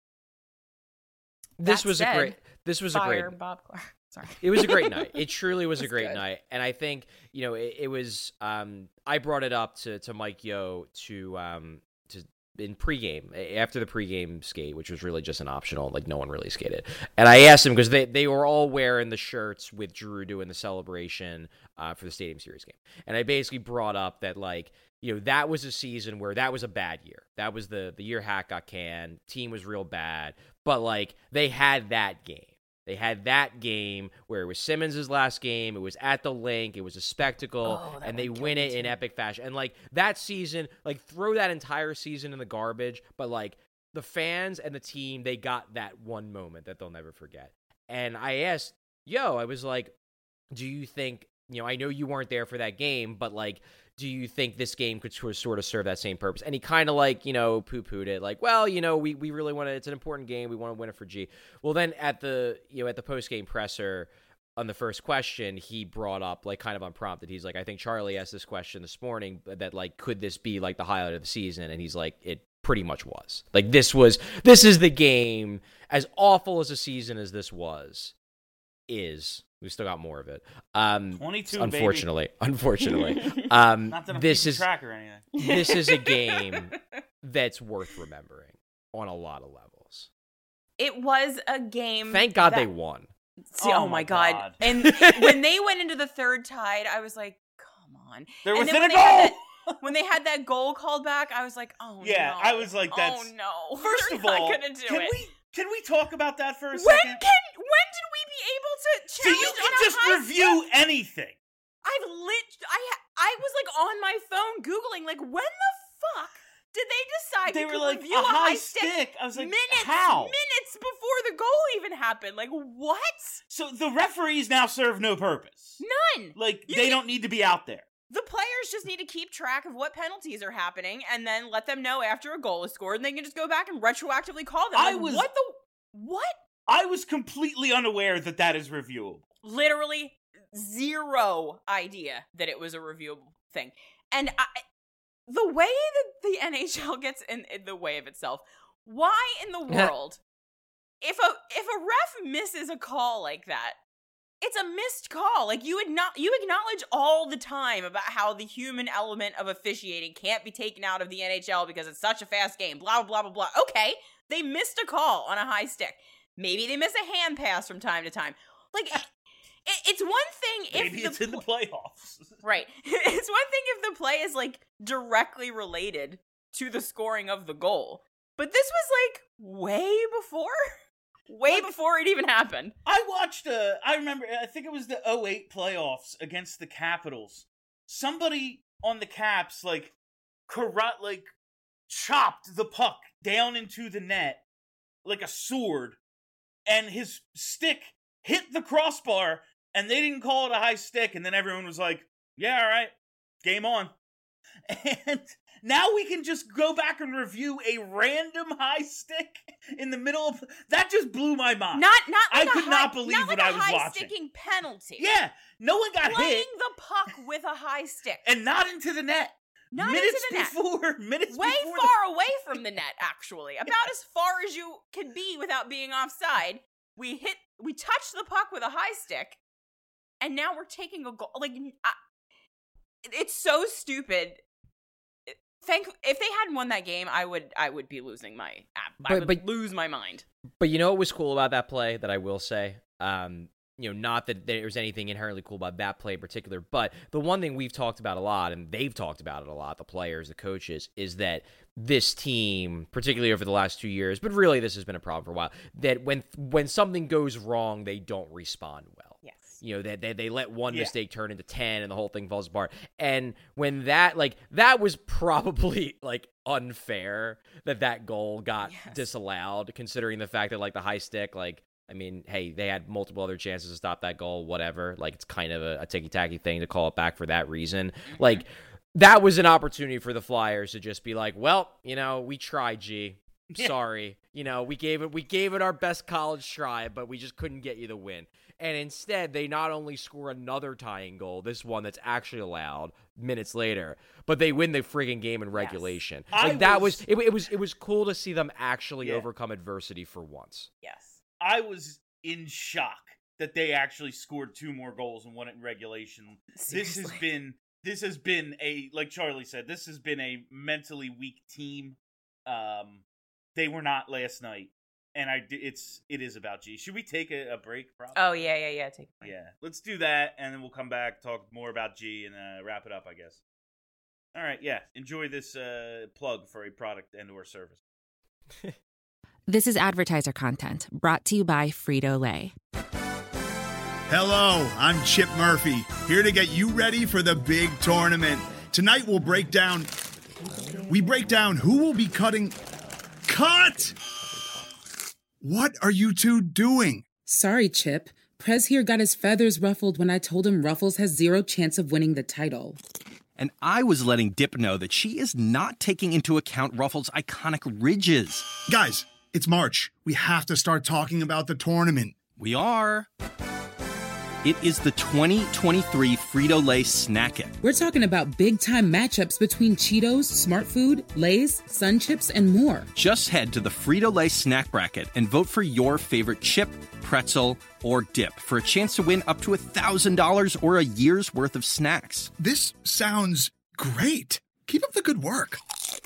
This That was said, a great this was a Fire great Bob Clark. Sorry. It was a great night. It truly was a It was great good. night. And I think, you know, it, it was um I brought it up to, to Mike Yo to um to in pregame, after the pregame skate, which was really just an optional, like no one really skated. And I asked him because they, they were all wearing the shirts with Drew doing the celebration uh, for the Stadium Series game. And I basically brought up that, like, you know, that was a season where that was a bad year. That was the, the year Hack got canned. Team was real bad. But, like, they had that game. They had that game where it was Simmons' last game. It was at the link. It was a spectacle. Oh, that and they one win killed it me in too. epic fashion. And, like, that season, like, throw that entire season in the garbage. But, like, the fans and the team, they got that one moment that they'll never forget. And I asked, yo, I was like, do you think, you know, I know you weren't there for that game, but, like, do you think this game could sort of serve that same purpose? And he kind of, like, you know, poo-pooed it, like, well, you know, we, we really want to, it's an important game. We want to win it for G. Well, then at the, you know, at the post-game presser on the first question, he brought up, like, kind of unprompted. He's like, I think Charlie asked this question this morning that, like, could this be, like, the highlight of the season? And he's like, it pretty much was. Like, this was, this is the game, as awful as a season as this was, is. We still got more of it. Um, twenty-two, unfortunately, baby. unfortunately, um, Not that I'm this keeping is track or anything. this is a game that's worth remembering on a lot of levels. It was a game. Thank God that- they won. See, oh, Oh my my god. God. And when they went into the third tied, I was like, come on. They're And then within when a they had goal. that- when they had that goal called back, I was like, oh Yeah, no. I was like, that's- Oh no. First They're of not all, gonna do can it. we can we talk about that for a when second? can when did we be able to So challenge you on can a just high review stick? anything. I've lit I ha- I was like on my phone googling like when the fuck did they decide They we were could like, review a a high high stick? stick. I was like, minutes, how? minutes before the goal even happened. Like what? So the referees now serve no purpose. None. Like You they can- don't need to be out there. The players just need to keep track of what penalties are happening and then let them know after a goal is scored and they can just go back and retroactively call them. I Like, was- what the what? I was completely unaware that that is reviewable. Literally zero idea that it was a reviewable thing. And I, the way that the N H L gets in, in the way of itself, why in the world, if a if a ref misses a call like that, it's a missed call. Like you acknowledge, you acknowledge all the time about how the human element of officiating can't be taken out of the N H L because it's such a fast game. Blah blah blah blah. Okay, they missed a call on a high stick. Maybe they miss a hand pass from time to time. Like it, it, it's one thing if Maybe the it's in the pl- playoffs. right. It's one thing if the play is like directly related to the scoring of the goal, but this was like way before. Way Like- before it even happened. I watched, uh, I remember, I think it was the oh eight playoffs against the Capitals, somebody on the Caps like corrupt, like chopped the puck down into the net like a sword, and his stick hit the crossbar, and they didn't call it a high stick, and then everyone was like, yeah, all right, game on. And now we can just go back and review a random high stick in the middle of... That just blew my mind. Not, not like I a could high, not believe not what like I a was high watching. sticking penalty. Yeah, no one got Playing hit. the puck with a high stick. And not into the net. Not minutes into the net. before, minutes Way before far away from the net, actually. About as far as you can be without being offside. We hit, we touched the puck with a high stick, and now we're taking a goal. Like, I, it's so stupid. Thank, if they hadn't won that game, I would, I would be losing my, I But- would but- lose my mind. But you know what was cool about that play that I will say? Um, you know, not that there's anything inherently cool about that play in particular, but the one thing we've talked about a lot, and they've talked about it a lot, the players, the coaches, is that this team, particularly over the last two years, but really this has been a problem for a while, that when when something goes wrong, they don't respond well. Yes. You know, they, they, they let one Yeah. mistake turn into ten and the whole thing falls apart. And when that, like, that was probably, like, unfair that that goal got Yes. disallowed, considering the fact that, like, the high stick, like, I mean, hey, they had multiple other chances to stop that goal, whatever. Like, it's kind of a, a ticky-tacky thing to call it back for that reason. Mm-hmm. Like, that was an opportunity for the Flyers to just be like, well, you know, we tried, G. Yeah. Sorry. You know, we gave it we gave it our best college try, but we just couldn't get you the win. And instead, they not only score another tying goal, this one that's actually allowed minutes later, but they win the friggin' game in regulation. I Like, that was- was, it, it was it was cool to see them actually Yeah. overcome adversity for once. Yes. I was in shock that they actually scored two more goals and won it in regulation. This has Seriously. been this has been a, like Charlie said, this has been a mentally weak team. Um, they were not last night, and I it's it is about G. Should we take a, a break? Probably. Oh, yeah, yeah, yeah. Take a break. Yeah, let's do that, and then we'll come back, talk more about G, and uh, wrap it up, I guess. All right, yeah. Enjoy this uh, plug for a product and or service. This is advertiser content brought to you by Frito-Lay. Hello, I'm Chip Murphy, here to get you ready for the big tournament. Tonight we'll break down... We break down who will be cutting... Cut! What are you two doing? Sorry, Chip. Prez here got his feathers ruffled when I told him Ruffles has zero chance of winning the title. And I was letting Dip know that she is not taking into account Ruffles' iconic ridges. Guys, it's March. We have to start talking about the tournament. We are. It is the twenty twenty-three Frito-Lay Snack It. We're talking about big-time matchups between Cheetos, Smart Food, Lay's, Sun Chips, and more. Just head to the Frito-Lay Snack Bracket and vote for your favorite chip, pretzel, or dip for a chance to win up to one thousand dollars or a year's worth of snacks. This sounds great. Keep up the good work.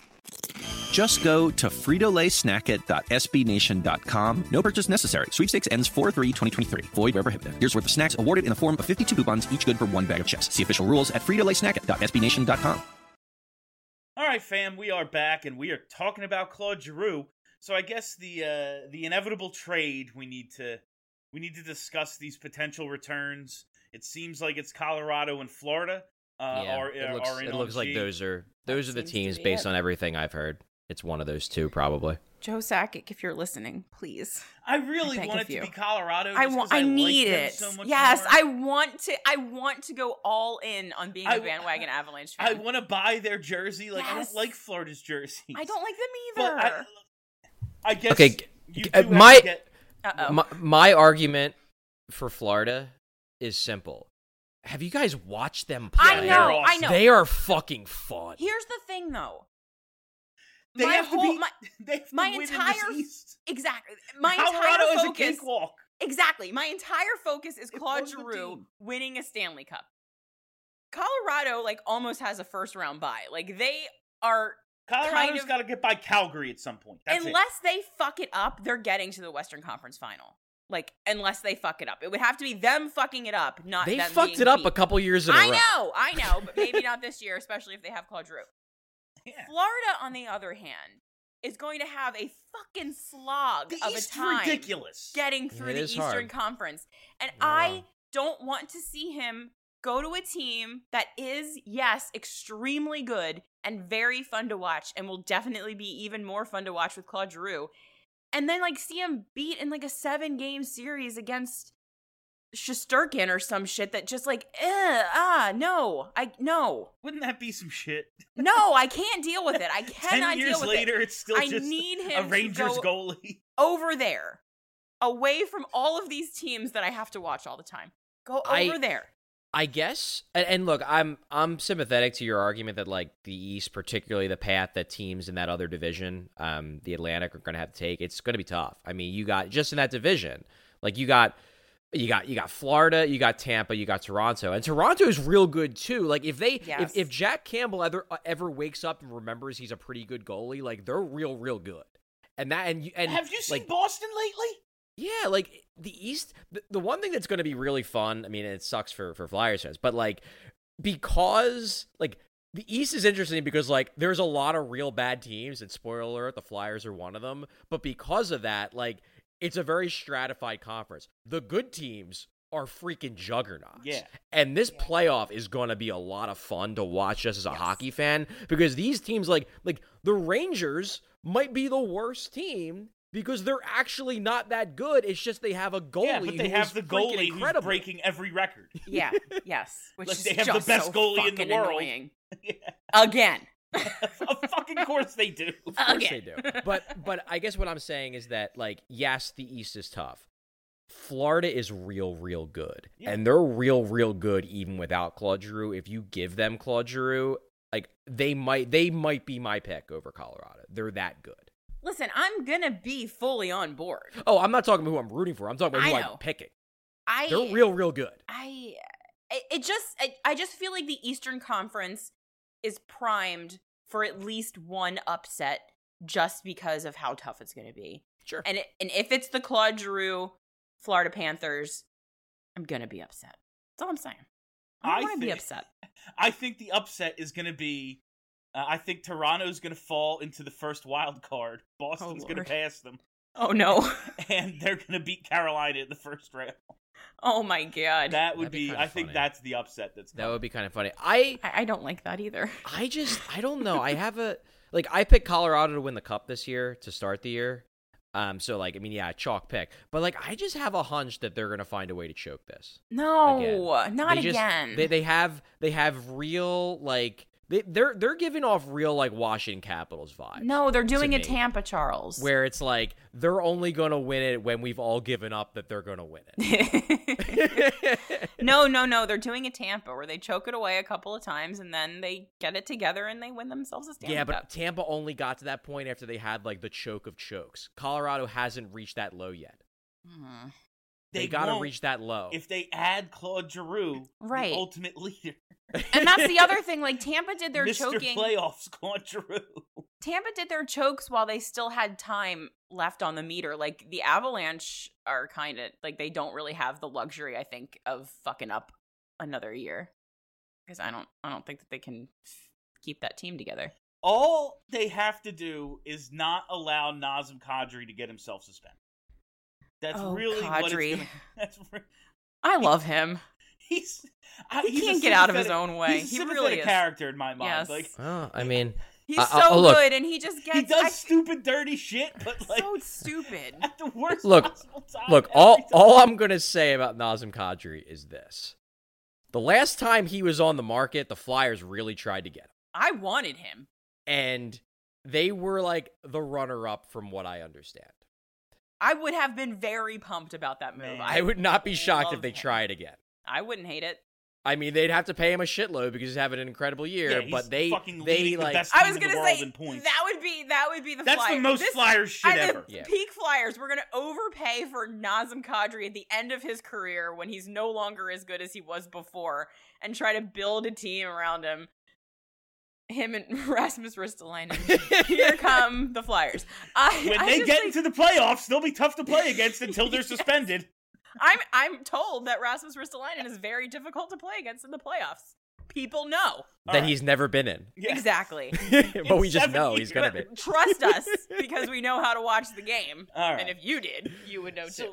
Just go to frito lay snack it dot s b nation dot com. No purchase necessary. Sweepstakes ends four three twenty twenty-three. Void where prohibited. Here's worth of snacks awarded in the form of fifty-two coupons, each good for one bag of chips. See official rules at frito lay snack it dot s b nation dot com. All right, fam, we are back, and we are talking about Claude Giroux. So I guess the uh, the inevitable trade we need to we need to discuss these potential returns. It seems like it's Colorado and Florida. Uh, yeah, are, it are, looks, are in it on looks like G. those are those That are the seems to teams be based it. on everything I've heard. It's one of those two, probably. Joe Sakic, if you're listening, please. I really I beg want of it to you. be Colorado. I just want. 'cause I like need them it. So much yes, more. I want to. I want to go all in on being a I- bandwagon Avalanche I fan. want to buy their jersey. Like I Yes. don't like Florida's jerseys. I don't like them But either. I, I guess. Okay, you uh, do have my- to get, Uh oh. My, my argument for Florida is simple. Have you guys watched them play? I know. I know. They are fucking fun. Here's the thing, though. they my have whole, to be. my, they have to my win entire in this East. exactly. My Colorado entire is focus. a cakewalk. Exactly. My entire focus is It Claude was the Giroux team. winning a Stanley Cup. Colorado, like, almost has a first round bye. Like, they are. Colorado's kind of- got to get by Calgary at some point. That's it. unless they fuck it up, they're getting to the Western Conference Final. Like, unless they fuck it up, it would have to be them fucking it up, not They them fucked being it up beat. a couple years in a I row. know, I know, but maybe not this year, especially if they have Claude Giroux. Yeah. Florida, on the other hand, is going to have a fucking slog The of East a time ridiculous. getting through It the is Eastern hard. Conference, and Yeah. I don't want to see him Go to a team that is, yes, extremely good and very fun to watch and will definitely be even more fun to watch with Claude Giroux. And then, like, see him beat in, like, a seven-game series against Shesterkin or some shit that just, like, eh, ah, no. I, no. Wouldn't that be some shit? No, I can't deal with it. I cannot Ten years deal with later, it. it's still I just need him a Rangers to go goalie. over there. Away from all of these teams that I have to watch all the time. Go over I, there. I guess, and, and look, I'm I'm sympathetic to your argument that like the East, particularly the path that teams in that other division, um, the Atlantic, are going to have to take. It's going to be tough. I mean, you got just in that division, like you got, you got, you got Florida, you got Tampa, you got Toronto, and Toronto is real good too. Like if they, Yes. if if Jack Campbell ever ever wakes up and remembers he's a pretty good goalie, like they're real, real good. And that, and you, and Have you seen like, Boston lately? Yeah, like the East, the, the one thing that's going to be really fun, I mean, it sucks for, for Flyers fans, but like, because like the East is interesting because like there's a lot of real bad teams, and spoiler alert, the Flyers are one of them. But because of that, like it's a very stratified conference. The good teams are freaking juggernauts. Yeah. And this playoff is going to be a lot of fun to watch just as a yes. hockey fan, because these teams like like the Rangers might be the worst team because they're actually not that good. It's just they have a goalie. Yeah, but they have the goalie who's breaking every record. Yeah, yes. Which like is they have just the best so goalie in the fucking world. Annoying. Yeah. Again. Of fucking course they do. Of course Again. they do. But but I guess what I'm saying is that, like, yes, the East is tough. Florida is real, real good. Yeah. And they're real, real good even without Claude Giroux. If you give them Claude Giroux, like, they might they might be my pick over Colorado. They're that good. Listen, I'm gonna be fully on board. Oh, I'm not talking about who I'm rooting for. I'm talking about who I'm picking. I, They're real, real good. I, it, it just, I, I just feel like the Eastern Conference is primed for at least one upset just because of how tough it's gonna be. Sure. And it, and if it's the Claude Giroux Florida Panthers, I'm gonna be upset. That's all I'm saying. I want to be upset. I think the upset is gonna be. Uh, I think Toronto's going to fall into the first wild card. Boston's oh, going to pass them. Oh, no. And they're going to beat Carolina in the first round. Oh, my God. That would That'd be, be, be I funny. think that's the upset that's coming. That would be kind of funny. I, I I don't like that either. I just, I don't know. I have a, like, I picked Colorado to win the Cup this year to start the year. Um, so, like, I mean, yeah, chalk pick. But, like, I just have a hunch that they're going to find a way to choke this. No, again. not they just, again. They, they have, they have real, like... They, they're they're giving off real, like, Washington Capitals vibes. No, they're doing a Tampa, Charles. Where it's like, they're only going to win it when we've all given up that they're going to win it. no, no, no. They're doing a Tampa where they choke it away a couple of times and then they get it together and they win themselves a Stanley Yeah, but Cup. Tampa only got to that point after they had, like, the choke of chokes. Colorado hasn't reached that low yet. Mm. They, they got to reach that low. If they add Claude Giroux, right. the ultimate leader. And that's the other thing. Like, Tampa did their Mister choking. Playoffs, Claude Giroux. Tampa did their chokes while they still had time left on the meter. Like, the Avalanche are kind of, like, they don't really have the luxury, I think, of fucking up another year. Because I don't, I don't think that they can f- keep that team together. All they have to do is not allow Nazem Kadri to get himself suspended. That's oh, really Kadri. what it's gonna, that's re- I love him. He's he he's can't get out of his own way. He's a he sympathetic really is. character in my mind. Yes. Like, oh, I mean, he's uh, so uh, look, good, and he just gets he does I, stupid, dirty shit, but like so stupid at the worst look, possible time. Look, all time. all I'm gonna say about Nazem Kadri is this: the last time he was on the market, the Flyers really tried to get him. I wanted him, and they were like the runner-up, from what I understand. I would have been very pumped about that move. Man, I, I would not be shocked if they him. try it again. I wouldn't hate it. I mean, they'd have to pay him a shitload because he's having an incredible year. Yeah, but they, fucking they the like. best I was team in gonna the world say in points. that would be that would be the. That's Flyers. the most this, Flyers shit at ever. The yeah. Peak Flyers. We're gonna overpay for Nazem Kadri at the end of his career when he's no longer as good as he was before, and try to build a team around him. Him and Rasmus Ristolainen. Here come the Flyers. I, when I they get think, into the playoffs, they'll be tough to play against until they're yes. suspended. I'm I'm told that Rasmus Ristolainen is very difficult to play against in the playoffs. People know that right. he's never been in. Yeah. Exactly. But we just know years. he's gonna be. Trust us because we know how to watch the game. All right. And if you did, you would know so, too.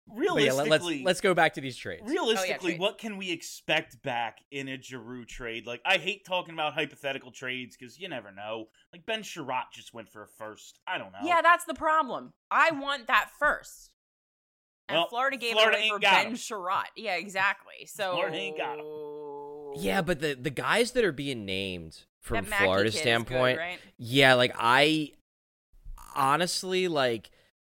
realistically, yeah, let's let's go back to these trades. Realistically, oh, yeah, what can we expect back in a Giroux trade? Like, I hate talking about hypothetical trades because you never know. Like, Ben Sherratt just went for a first. I don't know. Yeah, that's the problem. I want that first. And well, Florida gave Florida it away for Ben him. Sherratt. Yeah, exactly. So Florida ain't got him. Yeah, but the the guys that are being named from That Mackey Florida's kid is standpoint, good, right? yeah, like I honestly like.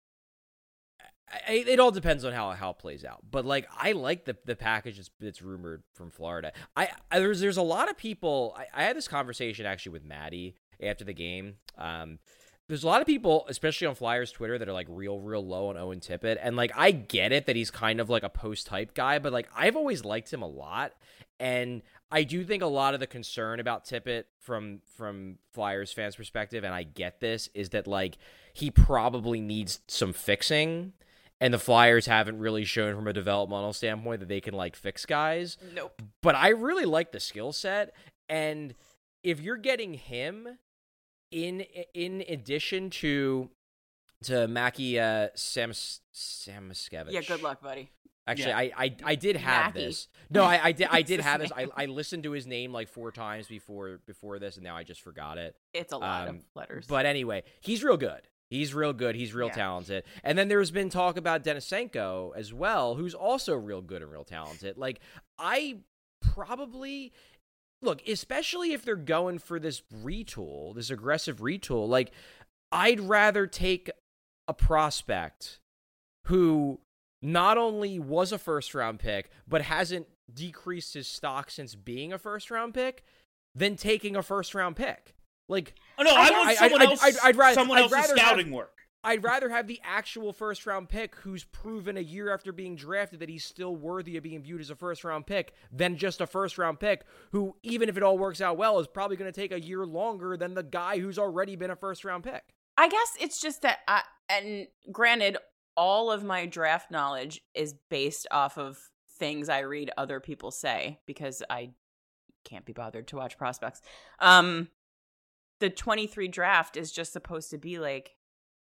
I, it all depends on how how it plays out, but like I like the the package that's, that's rumored from Florida. I, I there's there's a lot of people. I, I had this conversation actually with Maddie after the game. Um, there's a lot of people, especially on Flyers Twitter, that are like real real low on Owen Tippett, and like I get it that he's kind of like a post hype guy, but like I've always liked him a lot, and I do think a lot of the concern about Tippett from from Flyers fans' perspective, and I get this, is that like he probably needs some fixing. And the Flyers haven't really shown from a developmental standpoint that they can, like, fix guys. Nope. But I really like the skill set. And if you're getting him in in addition to to Mackie uh, Sam, Samoskevich. Yeah, good luck, buddy. Actually, Yeah. I, I I did have Mackie. this. No, I, I did I did his have this. I, name. I listened to his name like four times before before this, and now I just forgot it. It's a lot Um, of letters. But anyway, he's real good. He's real good. He's real Yeah. talented. And then there's been talk about Denisenko as well, who's also real good and real talented. Like, I probably look, especially if they're going for this retool, this aggressive retool, like, I'd rather take a prospect who not only was a first round pick, but hasn't decreased his stock since being a first round pick than taking a first round pick. Like, Oh, no, I, want I- someone I'd- else. I'd- I'd rather- someone I'd else's rather scouting have- work. I'd rather have the actual first round pick who's proven a year after being drafted that he's still worthy of being viewed as a first round pick than just a first round pick who, even if it all works out well, is probably going to take a year longer than the guy who's already been a first round pick. I guess it's just that, I, and granted, all of my draft knowledge is based off of things I read other people say because I can't be bothered to watch prospects. Um, the twenty-three draft is just supposed to be like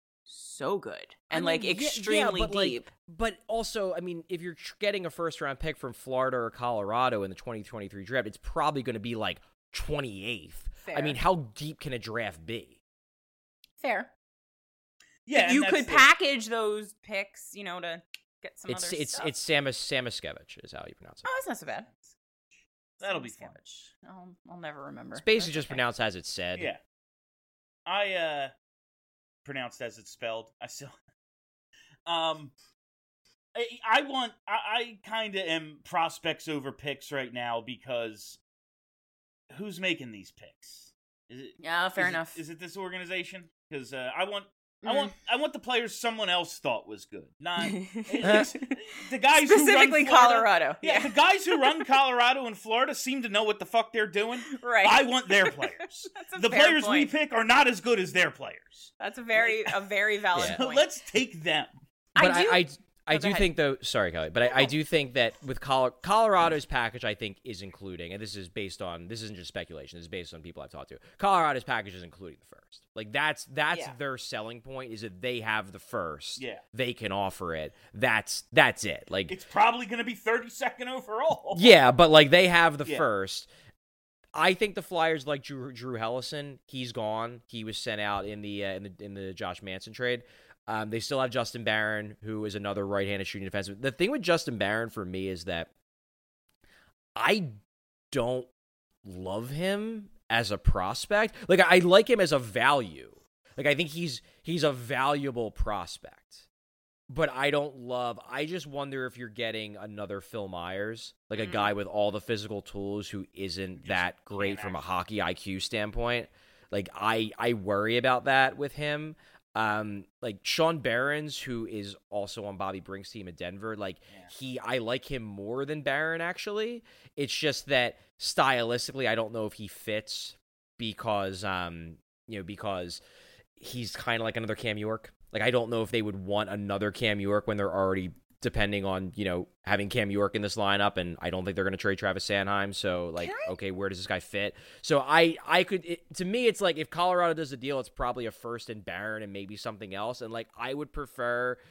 so good and I mean, like yeah- extremely yeah, but, like, deep. but also, I mean, if you're tr- getting a first round pick from Florida or Colorado in the twenty twenty-three draft, it's probably going to be like twenty-eighth. I Fair. mean, how deep can a draft be? Fair. Yeah, and You that's could the- package those picks, you know, to get some It's other it's stuff. it's Samus Samoskevich is how you pronounce it. Oh, that's not so bad. That'll be fun. Savage. I'll, I'll never remember. It's basically That's just okay. pronounced as it's said. Yeah. I uh pronounced as it's spelled. I still um I, I want I, I kinda am prospects over picks right now because who's making these picks? Is it Yeah, fair is it- enough. is it this organization? Because uh, I want I Mm. want I want the players someone else thought was good. Not it's- the guys Specifically who run Florida, Colorado. Yeah, Yeah. the guys who run Colorado and Florida seem to know what the fuck they're doing. Right. I want their players. That's a The fair players we point. pick are not as good as their players. That's a very a very valid Yeah. So point. let's take them. But I do. I I, I Oh, go do ahead. think though. Sorry, Kelly, but I, I No. do think that with Colo- Colorado's package, I think is including, and this is based on this isn't just speculation. This is based on people I've talked to. Colorado's package is including the first. Like that's that's Yeah. their selling point is that they have the first. Yeah. They can offer it. That's that's it. Like It's probably going to be thirty-second overall. yeah, but like they have the Yeah. first. I think the Flyers like Drew, Drew Hellison. He's gone. He was sent out in the uh, in the in the Josh Manson trade. Um, they still have Justin Barron, who is another right-handed shooting defenseman. The thing with Justin Barron for me is that I don't love him as a prospect. Like I like him as a value. Like I think he's he's a valuable prospect. But I don't love I just wonder if you're getting another Phil Myers, like a Mm. guy with all the physical tools who isn't that great from a actually- hockey I Q standpoint. Like I I worry about that with him. Um, like Sean Barons, who is also on Bobby Brink's team at Denver, like Yeah. he, I like him more than Barron. Actually, it's just that stylistically, I don't know if he fits because, um, you know, because he's kind of like another Cam York. Like I don't know if they would want another Cam York when they're already depending on, you know, having Cam York in this lineup, and I don't think they're going to trade Travis Sanheim. So, like, okay, where does this guy fit? So, I, I could, it, to me, it's like if Colorado does a deal, it's probably a first and Barron and maybe something else. And, like, I would prefer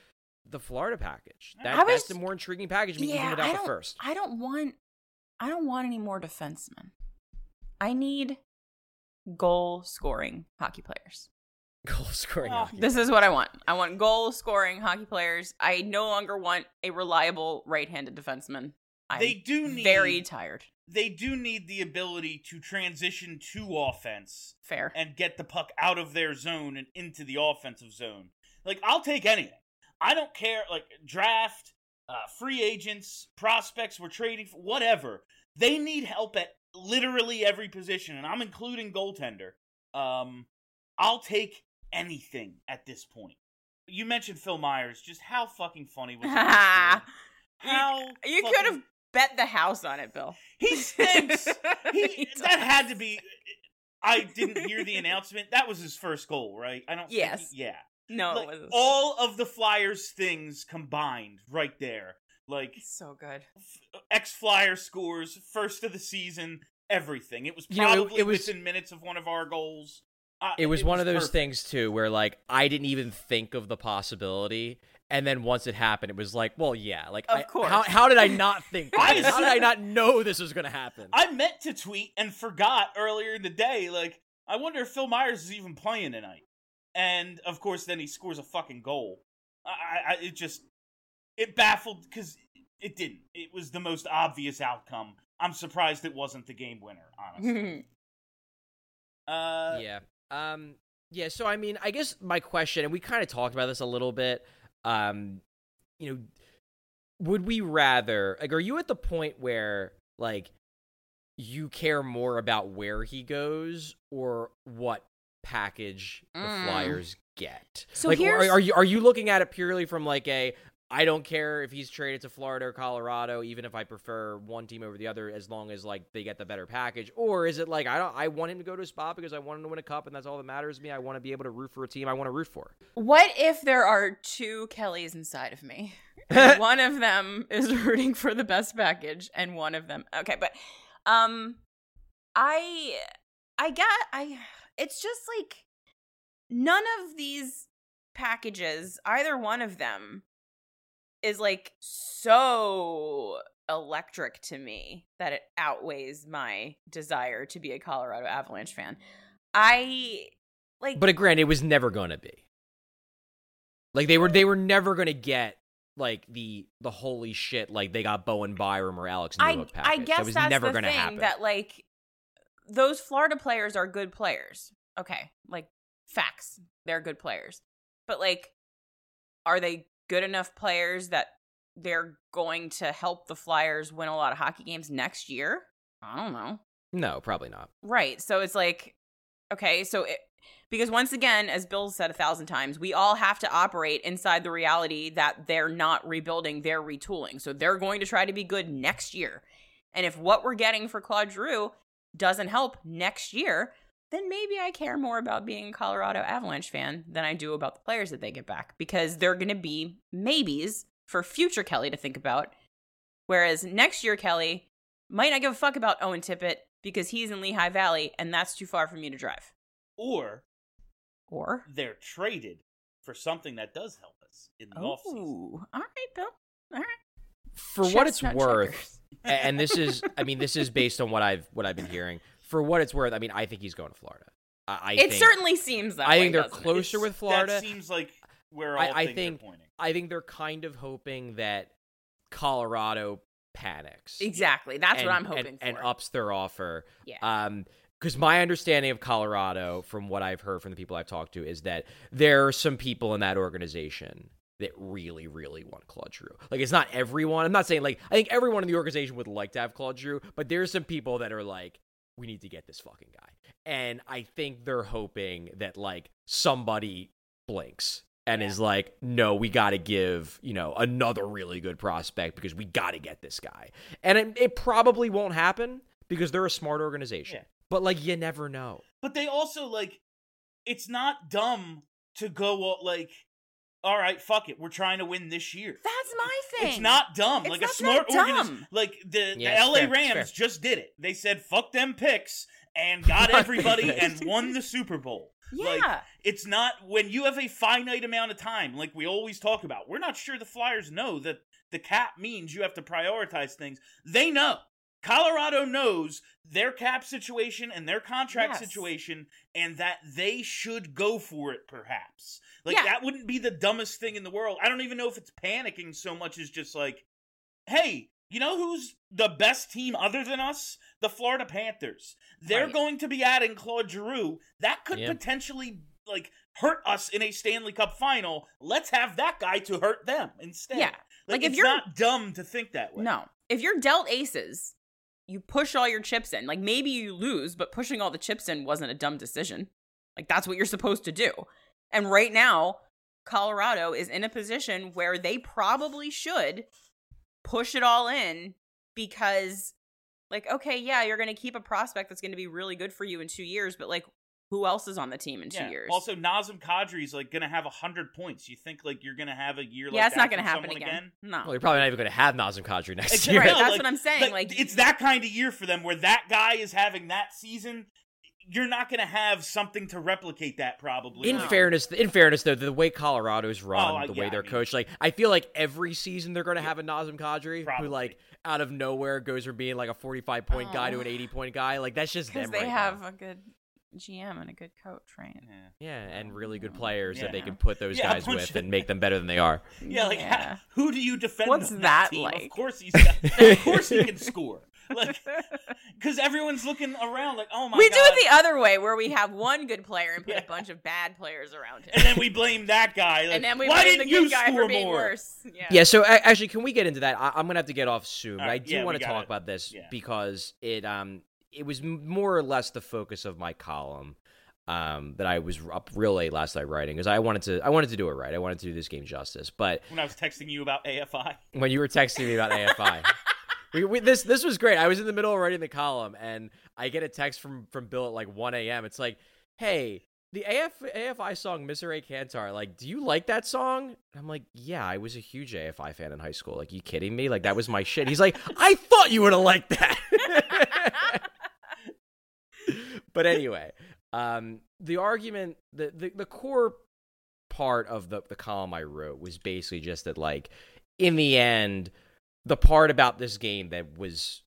the Florida package. That, I was, that's the more intriguing package yeah, even without I the don't, first. I don't want I don't want any more defensemen. I need goal scoring hockey players. Goal scoring. Oh, hockey this players. is what I want. I want goal scoring hockey players. I no longer want a reliable right-handed defenseman. I'm They do need very tired. They do need the ability to transition to offense. Fair. And get the puck out of their zone and into the offensive zone. Like, I'll take anything. I don't care, like, draft, uh, free agents, prospects we're trading for, whatever. They need help at literally every position, and I'm including goaltender. Um, I'll take anything at this point. You mentioned Phil Myers. Just how fucking funny was it? How You fucking... could have bet the house on it, Bill. He stinks. He, He that had to be... I didn't hear the announcement. That was his first goal, right? I don't Yes. think he, yeah. No, Like, it was all of the Flyers things combined right there. Like, so good. ex-Flyer scores, first of the season, everything. It was You know, it- probably it was- within minutes of one of our goals. Uh, It was one of those perfect. things too, where like I didn't even think of the possibility, and then once it happened, it was like, well, yeah, like Of I, course. How, how did I not think? I Of this? How did I assumed- not know this was going to happen? I meant to tweet and forgot earlier in the day, like, I wonder if Phil Myers is even playing tonight. And, of course, then he scores a fucking goal. I, I it just, it baffled, because it didn't. It was the most obvious outcome. I'm surprised it wasn't the game winner, honestly. uh, yeah. Um. Yeah. So I mean, I guess my question, and we kind of talked about this a little bit. Um. You know, would we rather like? Are you at the point where like you care more about where he goes or what package the Mm. Flyers get? So like, here's- are, are you are you looking at it purely from like a I don't care if he's traded to Florida or Colorado, even if I prefer one team over the other, as long as like they get the better package? Or is it like I don't I want him to go to a spot because I want him to win a cup and that's all that matters to me? I want to be able to root for a team I want to root for. What if there are two Kellys inside of me? And one of them is rooting for the best package, and one of them. Okay, but um, I I got I. It's just like none of these packages, either one of them, is like so electric to me that it outweighs my desire to be a Colorado Avalanche fan. I like, But granted, it was never going to be. Like they were they were never going to get like the the holy shit like they got Bowen Byram or Alex I Newhook package. I guess that was that's never the gonna thing happen. that like those Florida players are good players. Okay, like facts, they're good players. But like, are they good enough players that they're going to help the Flyers win a lot of hockey games next year? I don't know. No, probably not. Right. So it's like, okay, so it, because once again, as Bill said a thousand times, we all have to operate inside the reality that they're not rebuilding, they're retooling. So they're going to try to be good next year. And if what we're getting for Claude Giroux doesn't help next year, then maybe I care more about being a Colorado Avalanche fan than I do about the players that they get back, because they're going to be maybes for future Kelly to think about. Whereas next year, Kelly might not give a fuck about Owen Tippett because he's in Lehigh Valley and that's too far for me to drive. Or, or they're traded for something that does help us in the Ooh, offseason. All right, Bill. All right. For what it's Chestnut worth, checkers. and this is, I mean, this is based on what I've what I've been hearing. For what it's worth, I mean, I think he's going to Florida. I, I it think, certainly seems that I way, think they're doesn't it? closer It's- with Florida. That seems like where all I, I things think are pointing. I think they're kind of hoping that Colorado panics. Exactly. That's and, what I'm hoping and, for. and ups their offer. Yeah. Um, because my understanding of Colorado, from what I've heard from the people I've talked to, is that there are some people in that organization that really, really want Claude Giroux. Like, it's not everyone. I'm not saying, like, I think everyone in the organization would like to have Claude Giroux, but there's some people that are like, we need to get this fucking guy. And I think they're hoping that, like, somebody blinks and Yeah. is like, no, we got to give, you know, another really good prospect because we got to get this guy. And it, it probably won't happen because they're a smart organization. Yeah. But, like, you never know. But they also, like, it's not dumb to go, like, all right, fuck it, we're trying to win this year. That's my thing. It's not dumb. It's like, not a smart that organization. dumb. Like, the, Yeah, the it's L A fair, it's Rams fair. just did it. They said, fuck them picks, and got everybody and won the Super Bowl. Yeah. Like, it's not when you have a finite amount of time, like we always talk about. We're not sure the Flyers know that the cap means you have to prioritize things. They know. Colorado knows their cap situation and their contract Yes. situation, and that they should go for it, perhaps. Like, Yeah. that wouldn't be the dumbest thing in the world. I don't even know if it's panicking so much as just like, hey, you know who's the best team other than us? The Florida Panthers. They're Right. going to be adding Claude Giroux. That could Yeah. potentially, like, hurt us in a Stanley Cup final. Let's have that guy to hurt them instead. Yeah. Like, Like, if it's you're- not dumb to think that way. No. If you're dealt aces, you push all your chips in. Like, maybe you lose, but pushing all the chips in wasn't a dumb decision. Like, that's what you're supposed to do. And right now, Colorado is in a position where they probably should push it all in because, like, okay, yeah, you're going to keep a prospect that's going to be really good for you in two years, but, like, who else is on the team in two Yeah. years? Also, Nazem Kadri's like gonna have a hundred points. You think like you're gonna have a year like yeah, it's that not going to from happen someone again. No. Well, you're probably not even going to have Nazem Kadri next Exactly. year. Right, No, that's like- what I'm saying. Like, it's that kind of year for them where that guy is having that season. You're not going to have something to replicate that probably. In Like, fairness, in fairness, though, the way Colorado's run, Oh, I- the yeah, way I they're mean- coached, like I feel like every season they're going to have a Nazem Kadri Probably. who, like, out of nowhere goes from being like a forty-five point guy to Oh. an eighty point guy. Like that's just because them they right have now. a good G M and a good coach, right? Yeah. Yeah, and really good players that they Yeah. can put those Yeah, a guys bunch with of- and make them better than they are. Yeah, like Yeah. how- who do you defend? What's on that team? Of like? course he's got, of course he can score. Like because everyone's looking around like, oh my we god. do it the other way, where we have one good player and put Yeah. a bunch of bad players around him, and then we blame that guy. Like, and then we why blame the didn't you good guy score for being more? worse. Yeah. Yeah, so a- actually, can we get into that? I- I'm gonna have to get off soon, but All I right, do yeah, want we to gotta- talk about this yeah. because it um it was m- more or less the focus of my column um that I was up real late last night writing because I wanted to I wanted to do it right. I wanted to do this game justice, but When I was texting you about A F I. when you were texting me about A F I. We, we, this this was great. I was in the middle of writing the column, and I get a text from, from Bill at like one a.m. It's like, hey, the A F, A F I song Mister A Cantar, like, do you like that song? And I'm like, yeah, I was a huge A F I fan in high school. Like, you kidding me? Like, that was my shit. He's like, I thought you would have liked that. But anyway, um, the argument, the, the, the core part of the, the column I wrote was basically just that, like, in the end, the part about this game that was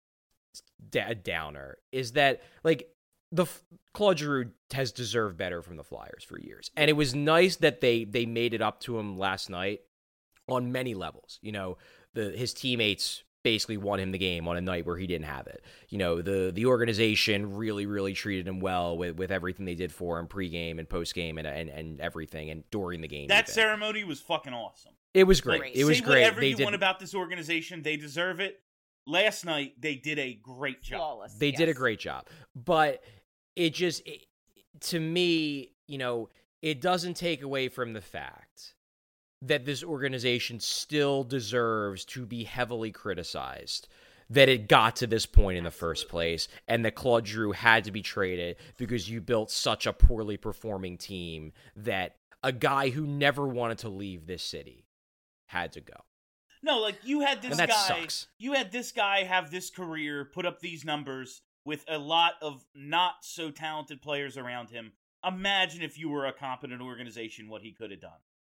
da- a downer is that, like, the Claude Giroux has deserved better from the Flyers for years, and it was nice that they they made it up to him last night on many levels. You know, the his teammates basically won him the game on a night where he didn't have it. You know, the the organization really really treated him well with, with everything they did for him pregame and postgame and and and everything and during the game. That even. ceremony was fucking awesome. It was great. Like, it was say great. Whatever They you did. want about this organization, they deserve it. Last night, they did a great job. Flawless. They did a yes. great job, but it just, it, to me, you know, it doesn't take away from the fact that this organization still deserves to be heavily criticized, that it got to this point in the first place, and that Claude Giroux had to be traded because you built such a poorly performing team that a guy who never wanted to leave this city had to go. No, like you had this And that guy. sucks. You had this guy have this career, put up these numbers with a lot of not so talented players around him. Imagine if you were a competent organization, what he could have done.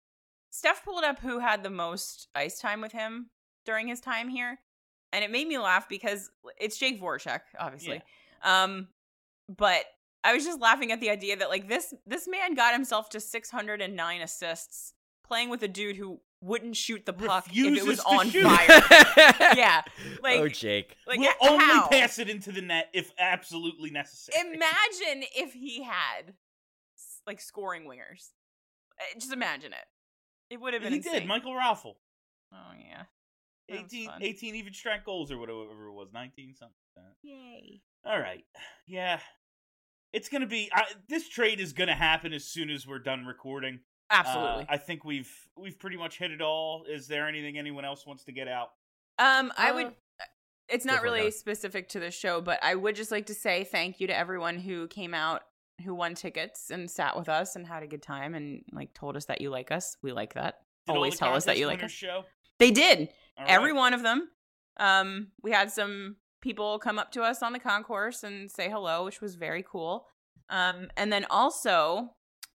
Steph pulled up who had the most ice time with him during his time here, and it made me laugh because it's Jake Voracek, obviously. Um, but I was just laughing at the idea that like this this man got himself to six hundred nine assists playing with a dude who wouldn't shoot the puck if it Refuses was to on shoot. fire. Yeah, like oh, Jake. like We'll how? only pass it into the net if absolutely necessary. Imagine if he had like scoring wingers. Uh, Just imagine it. It would have been he insane. did. Michael Raffle. Oh yeah. That was eighteen, fun. eighteen even strength goals or whatever it was. nineteen something like that. Yay. All right. Yeah. It's going to be I, this trade is going to happen as soon as we're done recording. Absolutely. Uh, I think we've we've pretty much hit it all. Is there anything anyone else wants to get out? Um, I Uh, would. It's go not for it, really Kelly. specific to the show, but I would just like to say thank you to everyone who came out, who won tickets and sat with us and had a good time and like told us that you like us. We like that. Did all Always the tell us that contest you like winners us. Show? They did. All Every right. one of them. Um, we had some people come up to us on the concourse and say hello, which was very cool. Um, and then also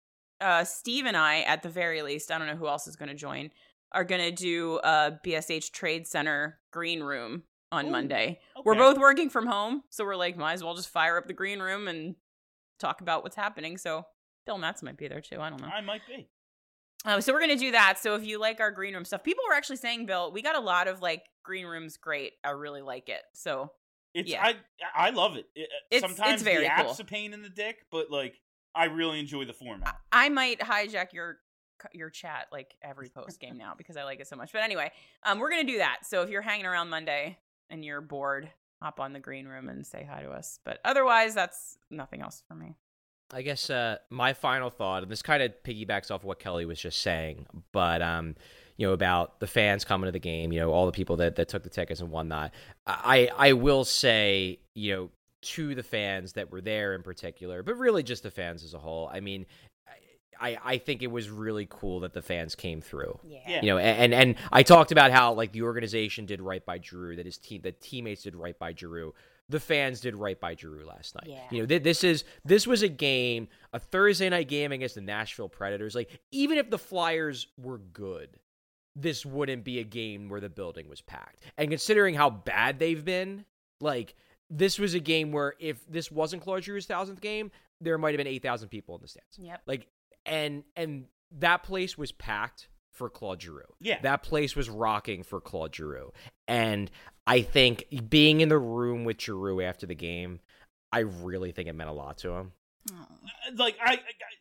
uh, Steve and I, at the very least, I don't know who else is going to join, are going to do a B S H Trade Center green room on Ooh, Monday. okay. We're both working from home, so we're like, might as well just fire up the green room and talk about what's happening. So Bill Matz might be there too. I don't know. I might be. Um, so we're going to do that. So if you like our green room stuff, people were actually saying, Bill, we got a lot of like green rooms. Great. I really like it. So It's yeah. I I love it. it It's- sometimes it's very the app's cool. a pain in the dick, but like I really enjoy the format. I might hijack your your chat like every post game now because I like it so much. But anyway, um, we're going to do that. So if you're hanging around Monday and you're bored, hop on the green room and say hi to us. But otherwise, that's nothing else for me. I guess uh, my final thought, and this kind of piggybacks off what Kelly was just saying, but um, you know, about the fans coming to the game, you know, all the people that, that took the tickets and whatnot. I I will say, you know, to the fans that were there in particular, but really just the fans as a whole. I mean, I I think it was really cool that the fans came through. Yeah. Yeah. You know, and, and and I talked about how like the organization did right by Giroux, that his team, that teammates did right by Giroux. The fans did right by Giroux last night. Yeah. You know, th- this is this was a game, a Thursday night game against the Nashville Predators. Like, even if the Flyers were good, this wouldn't be a game where the building was packed. And considering how bad they've been, like, this was a game where if this wasn't Claude Giroux's thousandth game, there might have been eight thousand people in the stands. Yep. Like, and and that place was packed for Claude Giroux. Yeah. That place was rocking for Claude Giroux. And I think being in the room with Giroux after the game, I really think it meant a lot to him. Like I, I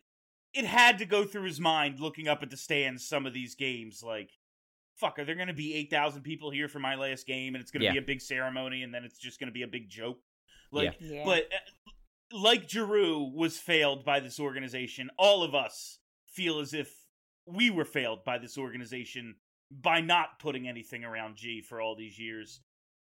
it had to go through his mind looking up at the stands some of these games like fuck, are there going to be eight thousand people here for my last game and it's going to Yeah. be a big ceremony and then it's just going to be a big joke? Like Yeah. Yeah. but uh, like Giroux was failed by this organization, all of us feel as if we were failed by this organization by not putting anything around G for all these years.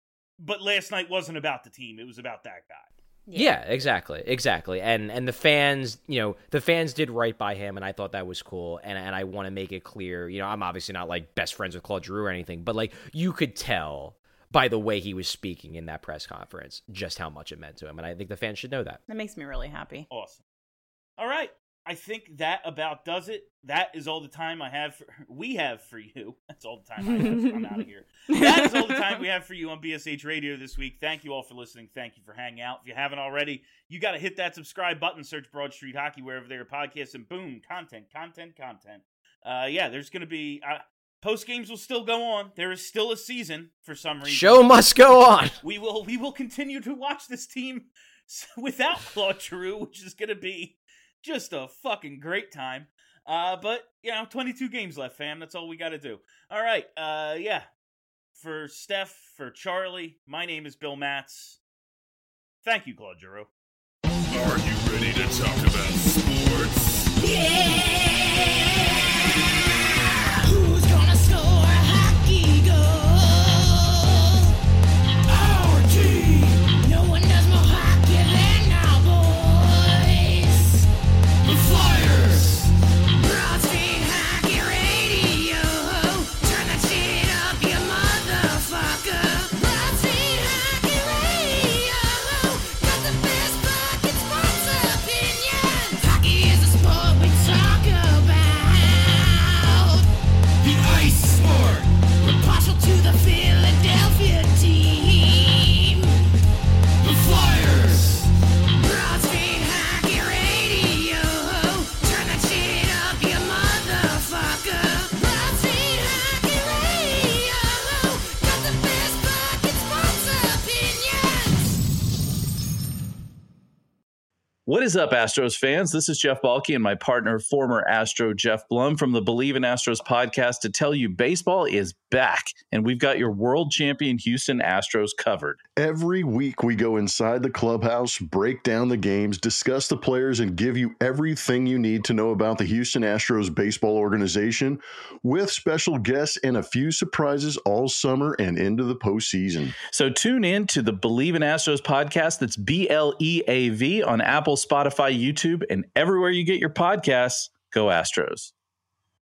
But last night wasn't about the team, it was about that guy. Yeah. yeah, exactly, exactly. And and the fans, you know, the fans did right by him, and I thought that was cool. And and I want to make it clear, you know, I'm obviously not like best friends with Claude Giroux or anything, but like you could tell by the way he was speaking in that press conference just how much it meant to him, and I think the fans should know that. That makes me really happy. Awesome. All right. I think that about does it. That is all the time I have for, we have for you. That's all the time I have. I'm out of here. That is all the time we have for you on B S H Radio this week. Thank you all for listening. Thank you for hanging out. If you haven't already, you got to hit that subscribe button, search Broad Street Hockey wherever there are podcasts, and boom, content, content, content. Uh, yeah, there's going to be, uh, post games will still go on. There is still a season for some reason. Show must go on. We will, we will continue to watch this team without Claude Giroux, which is going to be just a fucking great time. Uh, but, you know, twenty-two games left, fam. That's all we got to do. All right. Uh, yeah. For Steph, for Charlie, my name is Bill Matz. Thank you, Claude Giroux. Are you ready to talk about sports? Yeah! Who's gonna score a hockey goal? Our team! No one does more hockey than our boys! The Flyers! Broad Street Hockey Radio! Turn that shit up, you motherfucker! Broad Street Hockey Radio! Got the best fucking sports opinions! Hockey is a sport we talk about! The ice sport! We're partial to the Philadelphia team! The Flyers! Broad Street Hockey Radio! Turn that shit up, you motherfucker! Broad Street Hockey Radio! Got the best fucking sports opinions! What is up, Astros fans? This is Jeff Balke and my partner, former Astro Jeff Blum from the Believe in Astros podcast to tell you baseball is back, and we've got your world champion Houston Astros covered. Every week we go inside the clubhouse, break down the games, discuss the players, and give you everything you need to know about the Houston Astros baseball organization with special guests and a few surprises all summer and into the postseason. So tune in to the Believe in Astros podcast. That's B L E A V on Apple, Spotify, YouTube, and everywhere you get your podcasts. Go Astros.